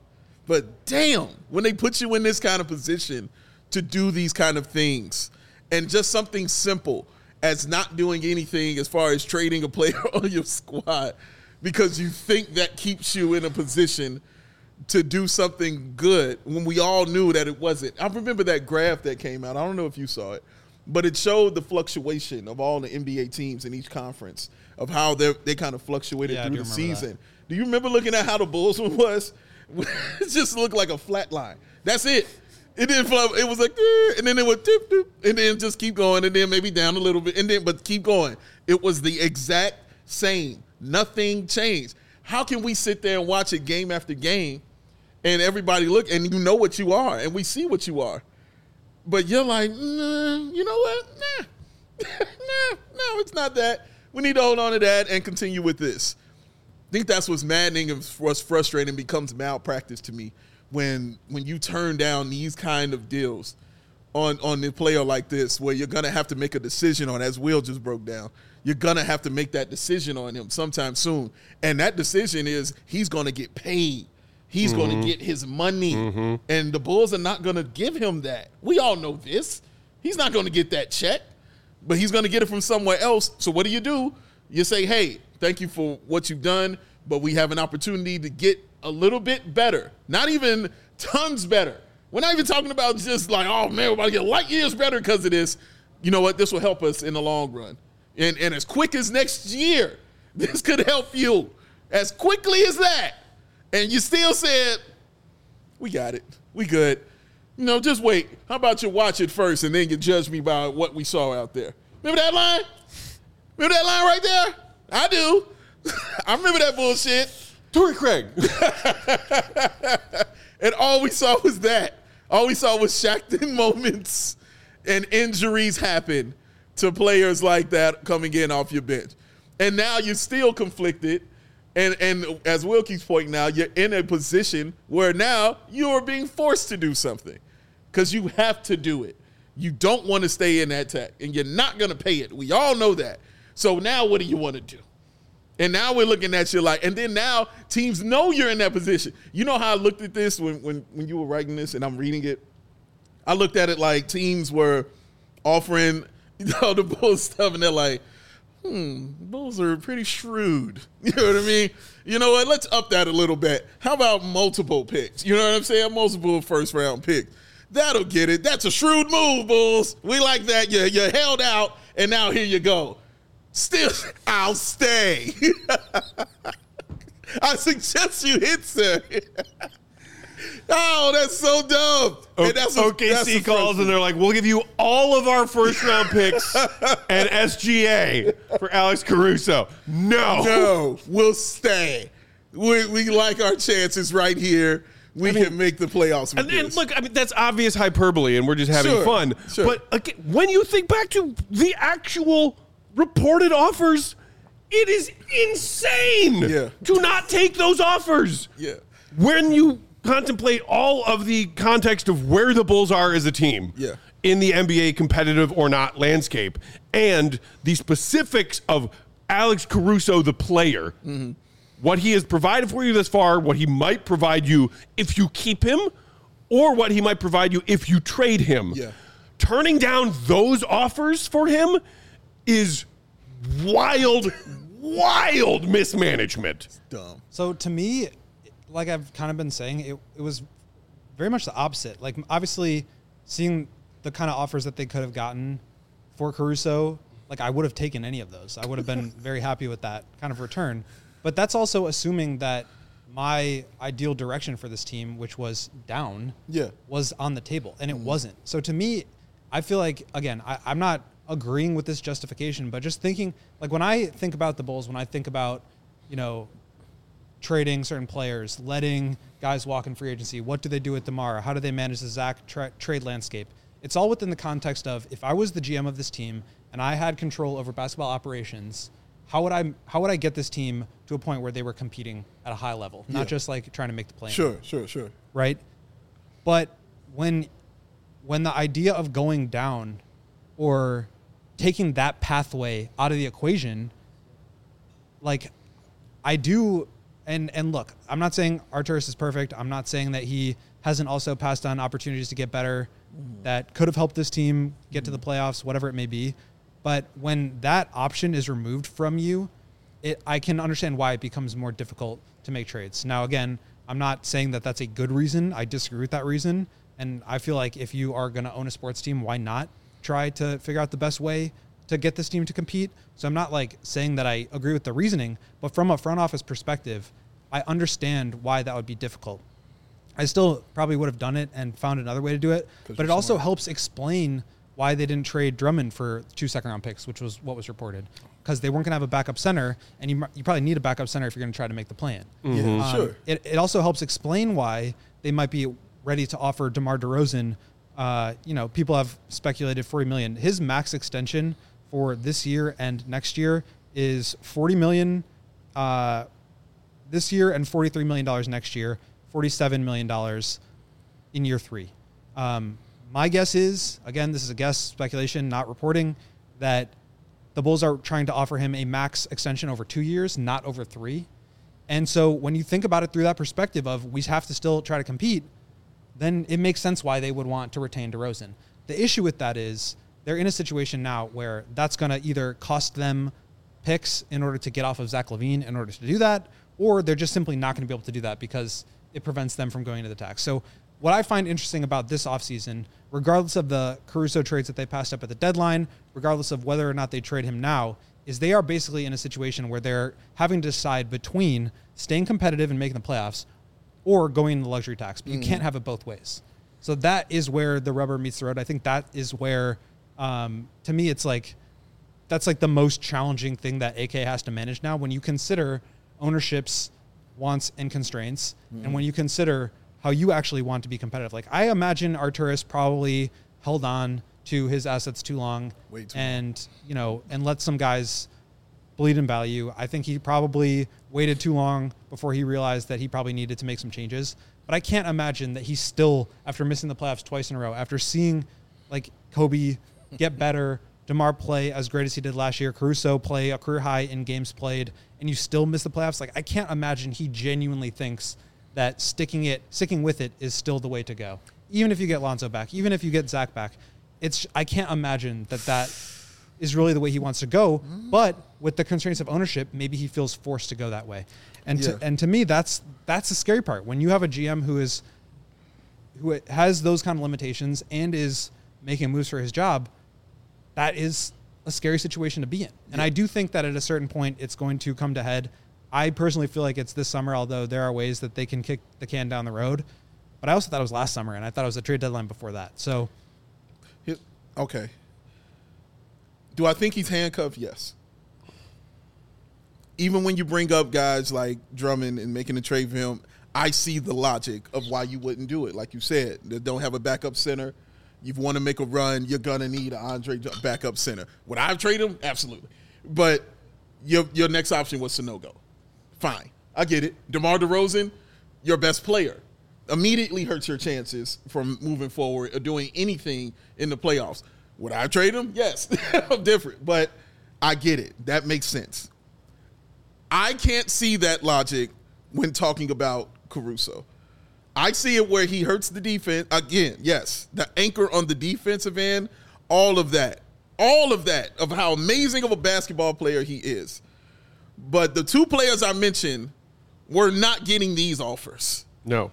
But damn, when they put you in this kind of position to do these kind of things, and just something simple as not doing anything as far as trading a player on your squad because you think that keeps you in a position to do something good when we all knew that it wasn't. I remember that graph that came out. I don't know if you saw it, but it showed the fluctuation of all the NBA teams in each conference of how they kind of fluctuated through the season. Do you remember looking at how the Bulls one was? It just looked like a flat line. That's it. It didn't flop. It was like, and then it would dip, dip, and then just keep going, and then maybe down a little bit, and then but keep going. It was the exact same. Nothing changed. How can we sit there and watch it game after game, and everybody look, and you know what you are, and we see what you are, but you're like, nah, you know what? Nah, no, it's not that. We need to hold on to that and continue with this. I think that's what's maddening and what's frustrating becomes malpractice to me. When you turn down these kind of deals on a player like this, where you're going to have to make a decision on, as Will just broke down, you're going to have to make that decision on him sometime soon. And that decision is he's going to get paid. He's going to get his money. And the Bulls are not going to give him that. We all know this. He's not going to get that check, but he's going to get it from somewhere else. So what do? You say, hey, thank you for what you've done, but we have an opportunity to get a little bit better. Not even tons better. We're not even talking about just like, oh, man, we're about to get light years better because of this. You know what? This will help us in the long run. And as quick as next year, this could help you as quickly as that. And you still said, We got it. We good. Just wait. How about you watch it first and then you judge me by what we saw out there? Remember that line? Remember that line right there? I do. I remember that bullshit. Torrey Craig. And all we saw was that. All we saw was Shackton moments and injuries happen to players like that coming in off your bench. And now you're still conflicted. And as Wilkie's pointing out, you're in a position where now you're being forced to do something because you have to do it. You don't want to stay in that tech, and you're not going to pay it. We all know that. So now what do you want to do? And now we're looking at you like, and then now teams know you're in that position. You know how I looked at this when you were writing this and I'm reading it? I looked at it like teams were offering the Bulls stuff, and they're like, Bulls are pretty shrewd. You know what I mean? You know what? Let's up that a little bit. How about multiple picks? You know what I'm saying? Multiple first-round picks. That'll get it. That's a shrewd move, Bulls. We like that. You held out, and now here you go. Still, I'll stay. I suggest you hit, sir. Oh, that's so dumb. OKC calls and they're like, we'll give you all of our first-round picks and SGA for Alex Caruso. No, we'll stay. We like our chances right here. We can make the playoffs with this. And look, I mean, that's obvious hyperbole, and we're just having fun. Sure. But again, when you think back to the actual reported offers, it is insane to not take those offers. Yeah. When you contemplate all of the context of where the Bulls are as a team in the NBA competitive or not landscape, and the specifics of Alex Caruso, the player, what he has provided for you thus far, what he might provide you if you keep him, or what he might provide you if you trade him. Yeah. Turning down those offers for him is wild mismanagement. It's dumb. So to me, like I've kind of been saying, it was very much the opposite. Like, obviously, seeing the kind of offers that they could have gotten for Caruso, like, I would have taken any of those. I would have been very happy with that kind of return. But that's also assuming that my ideal direction for this team, which was down, was on the table, and it wasn't. So to me, I feel like, again, I'm not agreeing with this justification, but just thinking, like, when I think about the Bulls, when I think about, trading certain players, letting guys walk in free agency, what do they do with DeMar? How do they manage the Zach trade landscape? It's all within the context of, if I was the GM of this team and I had control over basketball operations, how would I get this team to a point where they were competing at a high level, not just like trying to make the play? Sure. Right? But when the idea of going down or taking that pathway out of the equation, like, I do, and look, I'm not saying Arturas is perfect. I'm not saying that he hasn't also passed on opportunities to get better that could have helped this team get to the playoffs, whatever it may be. But when that option is removed from you, I can understand why it becomes more difficult to make trades. Now, again, I'm not saying that that's a good reason. I disagree with that reason. And I feel like if you are going to own a sports team, why not try to figure out the best way to get this team to compete? So I'm not like saying that I agree with the reasoning, but from a front office perspective, I understand why that would be difficult. I still probably would have done it and found another way to do it, but it also helps explain why they didn't trade Drummond for 2 second-round picks, which was what was reported, because they weren't going to have a backup center, and you probably need a backup center if you're going to try to make the play-in. Yeah, sure. It also helps explain why they might be ready to offer DeMar DeRozan. People have speculated $40 million. His max extension for this year and next year is $40 million this year and $43 million next year, $47 million in year 3. My guess is, again, this is a guess, speculation, not reporting, that the Bulls are trying to offer him a max extension over 2 years, not over 3. And so when you think about it through that perspective of we have to still try to compete, then it makes sense why they would want to retain DeRozan. The issue with that is they're in a situation now where that's going to either cost them picks in order to get off of Zach LaVine in order to do that, or they're just simply not going to be able to do that because it prevents them from going to the tax. So what I find interesting about this offseason, regardless of the Caruso trades that they passed up at the deadline, regardless of whether or not they trade him now, is they are basically in a situation where they're having to decide between staying competitive and making the playoffs or going in the luxury tax, but you can't have it both ways. So that is where the rubber meets the road. I think that is where, to me, it's like, that's like the most challenging thing that AK has to manage now when you consider ownership's wants and constraints, and when you consider how you actually want to be competitive. Like, I imagine Arturas probably held on to his assets too long, and let some guys bleed in value. I think he probably waited too long before he realized that he probably needed to make some changes. But I can't imagine that he's still, after missing the playoffs twice in a row, after seeing like Kobe get better, DeMar play as great as he did last year, Caruso play a career high in games played, and you still miss the playoffs. Like, I can't imagine he genuinely thinks that sticking with it is still the way to go. Even if you get Lonzo back, even if you get Zach back, I can't imagine that is really the way he wants to go. But with the constraints of ownership, maybe he feels forced to go that way. And to me, that's the scary part. When you have a GM who has those kind of limitations and is making moves for his job, that is a scary situation to be in. And I do think that at a certain point, it's going to come to head. I personally feel like it's this summer, although there are ways that they can kick the can down the road. But I also thought it was last summer, and I thought it was a trade deadline before that. So, okay. Do I think he's handcuffed? Yes. Even when you bring up guys like Drummond and making a trade for him, I see the logic of why you wouldn't do it. Like you said, they don't have a backup center. You want to make a run, you're going to need an Andre backup center. Would I trade him? Absolutely. But your next option was Sanogo. Fine. I get it. DeMar DeRozan, your best player, immediately hurts your chances from moving forward or doing anything in the playoffs. Would I trade him? Yes. I'm different. But I get it. That makes sense. I can't see that logic when talking about Caruso. I see it where he hurts the defense. Again, yes, the anchor on the defensive end, all of that, of how amazing of a basketball player he is. But the two players I mentioned were not getting these offers. No.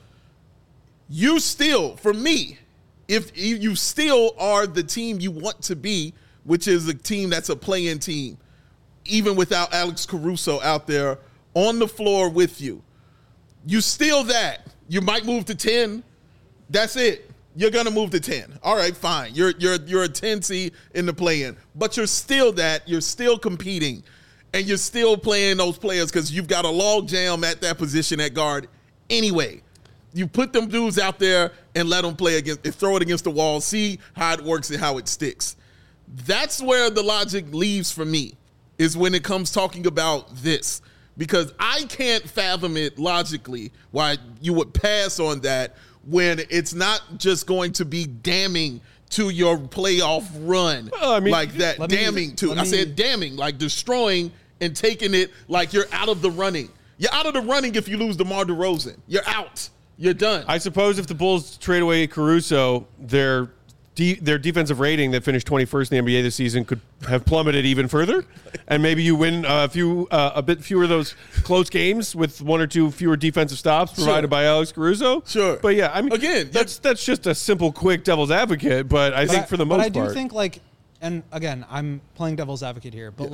You still, for me, if you still are the team you want to be, which is a team that's a play-in team, even without Alex Caruso out there on the floor with you, you still that. You might move to 10. That's it. You're going to move to 10. All right, fine. You're a 10 seed in the play-in. But you're still that. You're still competing. And you're still playing those players because you've got a log jam at that position at guard anyway. You put them dudes out there and let them play against, and throw it against the wall, see how it works and how it sticks. That's where the logic leaves for me, is when it comes talking about this. Because I can't fathom it logically why you would pass on that when it's not just going to be damning to your playoff run like that. I said damning, like destroying and taking it like you're out of the running. You're out of the running if you lose DeMar DeRozan. You're out. You're done. I suppose if the Bulls trade away Caruso, their defensive rating that finished 21st in the NBA this season could have plummeted even further, and maybe you win a bit fewer of those close games with one or two fewer defensive stops provided by Alex Caruso. Sure, but yeah, I mean, again, that's just a simple, quick devil's advocate. But I think for the most part, I do think and again, I'm playing devil's advocate here, but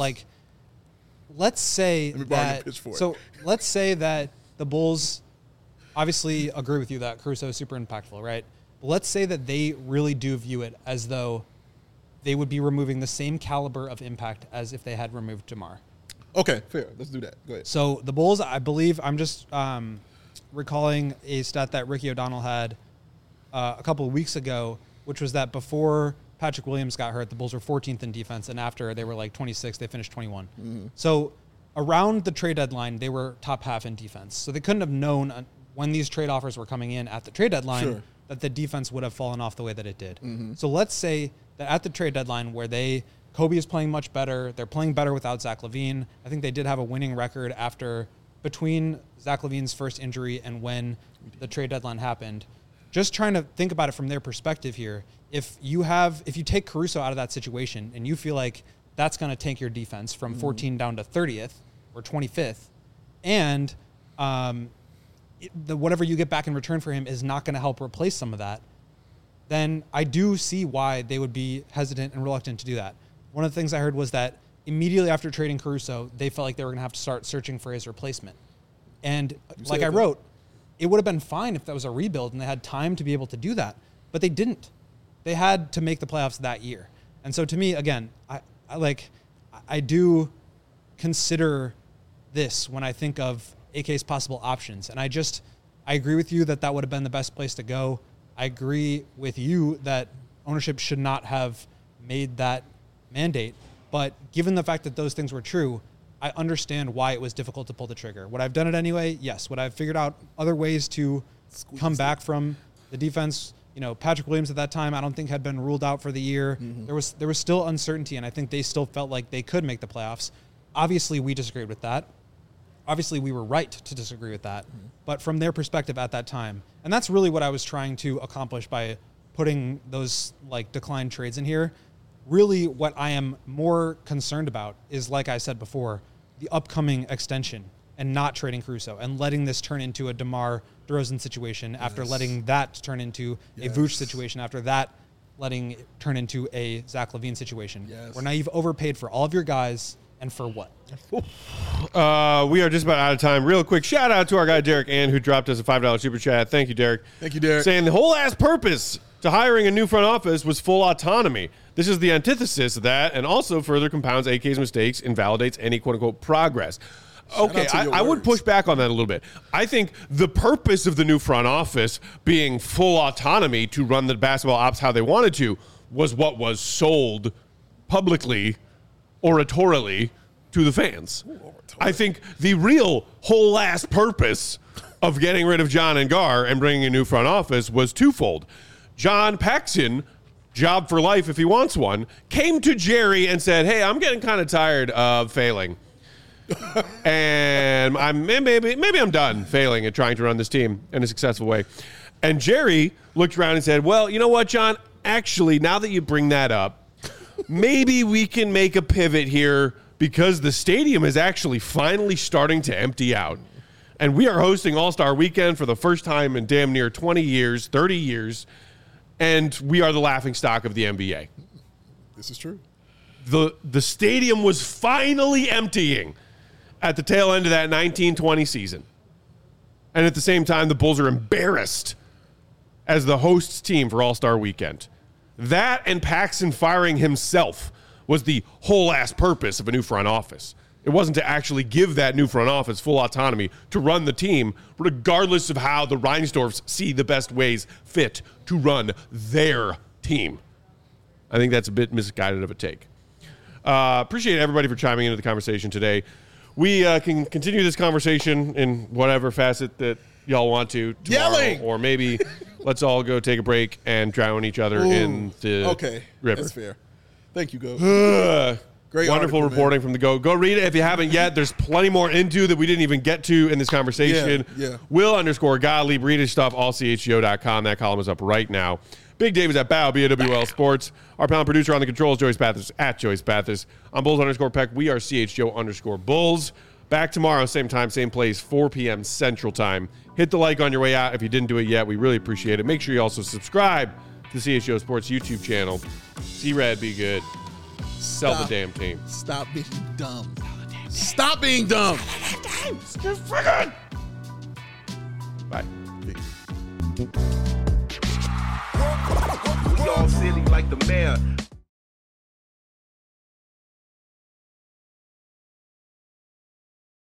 let's say that. So let's say that the Bulls obviously agree with you that Caruso is super impactful, right? Let's say that they really do view it as though they would be removing the same caliber of impact as if they had removed DeMar. Okay, fair. Let's do that. Go ahead. So the Bulls, I believe, I'm just recalling a stat that Ricky O'Donnell had a couple of weeks ago, which was that before Patrick Williams got hurt, the Bulls were 14th in defense, and after they were like 26th, they finished 21. Mm-hmm. So around the trade deadline, they were top half in defense. So they couldn't have known when these trade offers were coming in at the trade deadline that the defense would have fallen off the way that it did. Mm-hmm. So let's say that at the trade deadline where Kobe is playing much better, they're playing better without Zach LaVine. I think they did have a winning record between Zach LaVine's first injury and when the trade deadline happened. Just trying to think about it from their perspective here. If you take Caruso out of that situation and you feel like that's going to tank your defense from 14 down to 30th or 25th, and whatever you get back in return for him is not going to help replace some of that, then I do see why they would be hesitant and reluctant to do that. One of the things I heard was that immediately after trading Caruso, they felt like they were going to have to start searching for his replacement. And like I wrote, it would have been fine if that was a rebuild and they had time to be able to do that, but they didn't. They had to make the playoffs that year. And so to me, again, I do consider this when I think of AK's possible options. And I agree with you that would have been the best place to go. I agree with you that ownership should not have made that mandate. But given the fact that those things were true, I understand why it was difficult to pull the trigger. Would I have done it anyway? Yes. Would I have figured out other ways to come back from the defense? Patrick Williams at that time, I don't think had been ruled out for the year. Mm-hmm. There was still uncertainty, and I think they still felt like they could make the playoffs. Obviously, we disagreed with that. Obviously, we were right to disagree with that. Mm-hmm. But from their perspective at that time, and that's really what I was trying to accomplish by putting those decline trades in here. Really, what I am more concerned about is, like I said before, the upcoming extension and not trading Caruso and letting this turn into a DeMar DeRozan situation after letting that turn into a Vooch situation after that letting it turn into a Zach LaVine situation. Yes. Where now you've overpaid for all of your guys, and for what? We are just about out of time. Real quick, shout out to our guy Derek Ann, who dropped us a $5 super chat. Thank you, Derek. Thank you, Derek. Saying the whole ass purpose to hiring a new front office was full autonomy. This is the antithesis of that, and also further compounds AK's mistakes, invalidates any quote-unquote progress. Okay, I would push back on that a little bit. I think the purpose of the new front office being full autonomy to run the basketball ops how they wanted to was what was sold publicly, oratorially, to the fans. I think the real whole ass purpose of getting rid of John and Gar and bringing a new front office was twofold. John Paxson, job for life if he wants one, came to Jerry and said, hey, I'm getting kind of tired of failing. And maybe I'm done failing at trying to run this team in a successful way. And Jerry looked around and said, well, you know what, John? Actually, now that you bring that up, maybe we can make a pivot here because the stadium is actually finally starting to empty out. And we are hosting All-Star Weekend for the first time in damn near 20 years, 30 years, and we are the laughingstock of the NBA. This is true. The stadium was finally emptying at the tail end of that 1920 season. And at the same time, the Bulls are embarrassed as the hosts team for All-Star Weekend. That and Paxson firing himself was the whole ass purpose of a new front office. It wasn't to actually give that new front office full autonomy to run the team, regardless of how the Reinsdorfs see the best ways fit to run their team. I think that's a bit misguided of a take. Appreciate everybody for chiming into the conversation today. We can continue this conversation in whatever facet that y'all want to tomorrow. Yelling! Or maybe let's all go take a break and drown each other in the river. That's fair. Thank you, Go. Great wonderful article, reporting from the Go. Go read it if you haven't yet. There's plenty more into that we didn't even get to in this conversation. Yeah. Will_Gottlieb, read his stuff, allchgo.com. That column is up right now. Big Dave is at BAW, BAWL Sports. Our panel producer on the controls, Joyce Bathurst, at Joyce Bathurst. I'm Bulls_Peck. We are CHGO_Bulls. Back tomorrow, same time, same place, 4 p.m. Central Time. Hit the like on your way out if you didn't do it yet. We really appreciate it. Make sure you also subscribe to the CHGO Sports YouTube channel. See Red, be good. Sell the damn team. Stop being dumb. Stop being dumb. You're friggin'. Bye. We all silly like the mayor.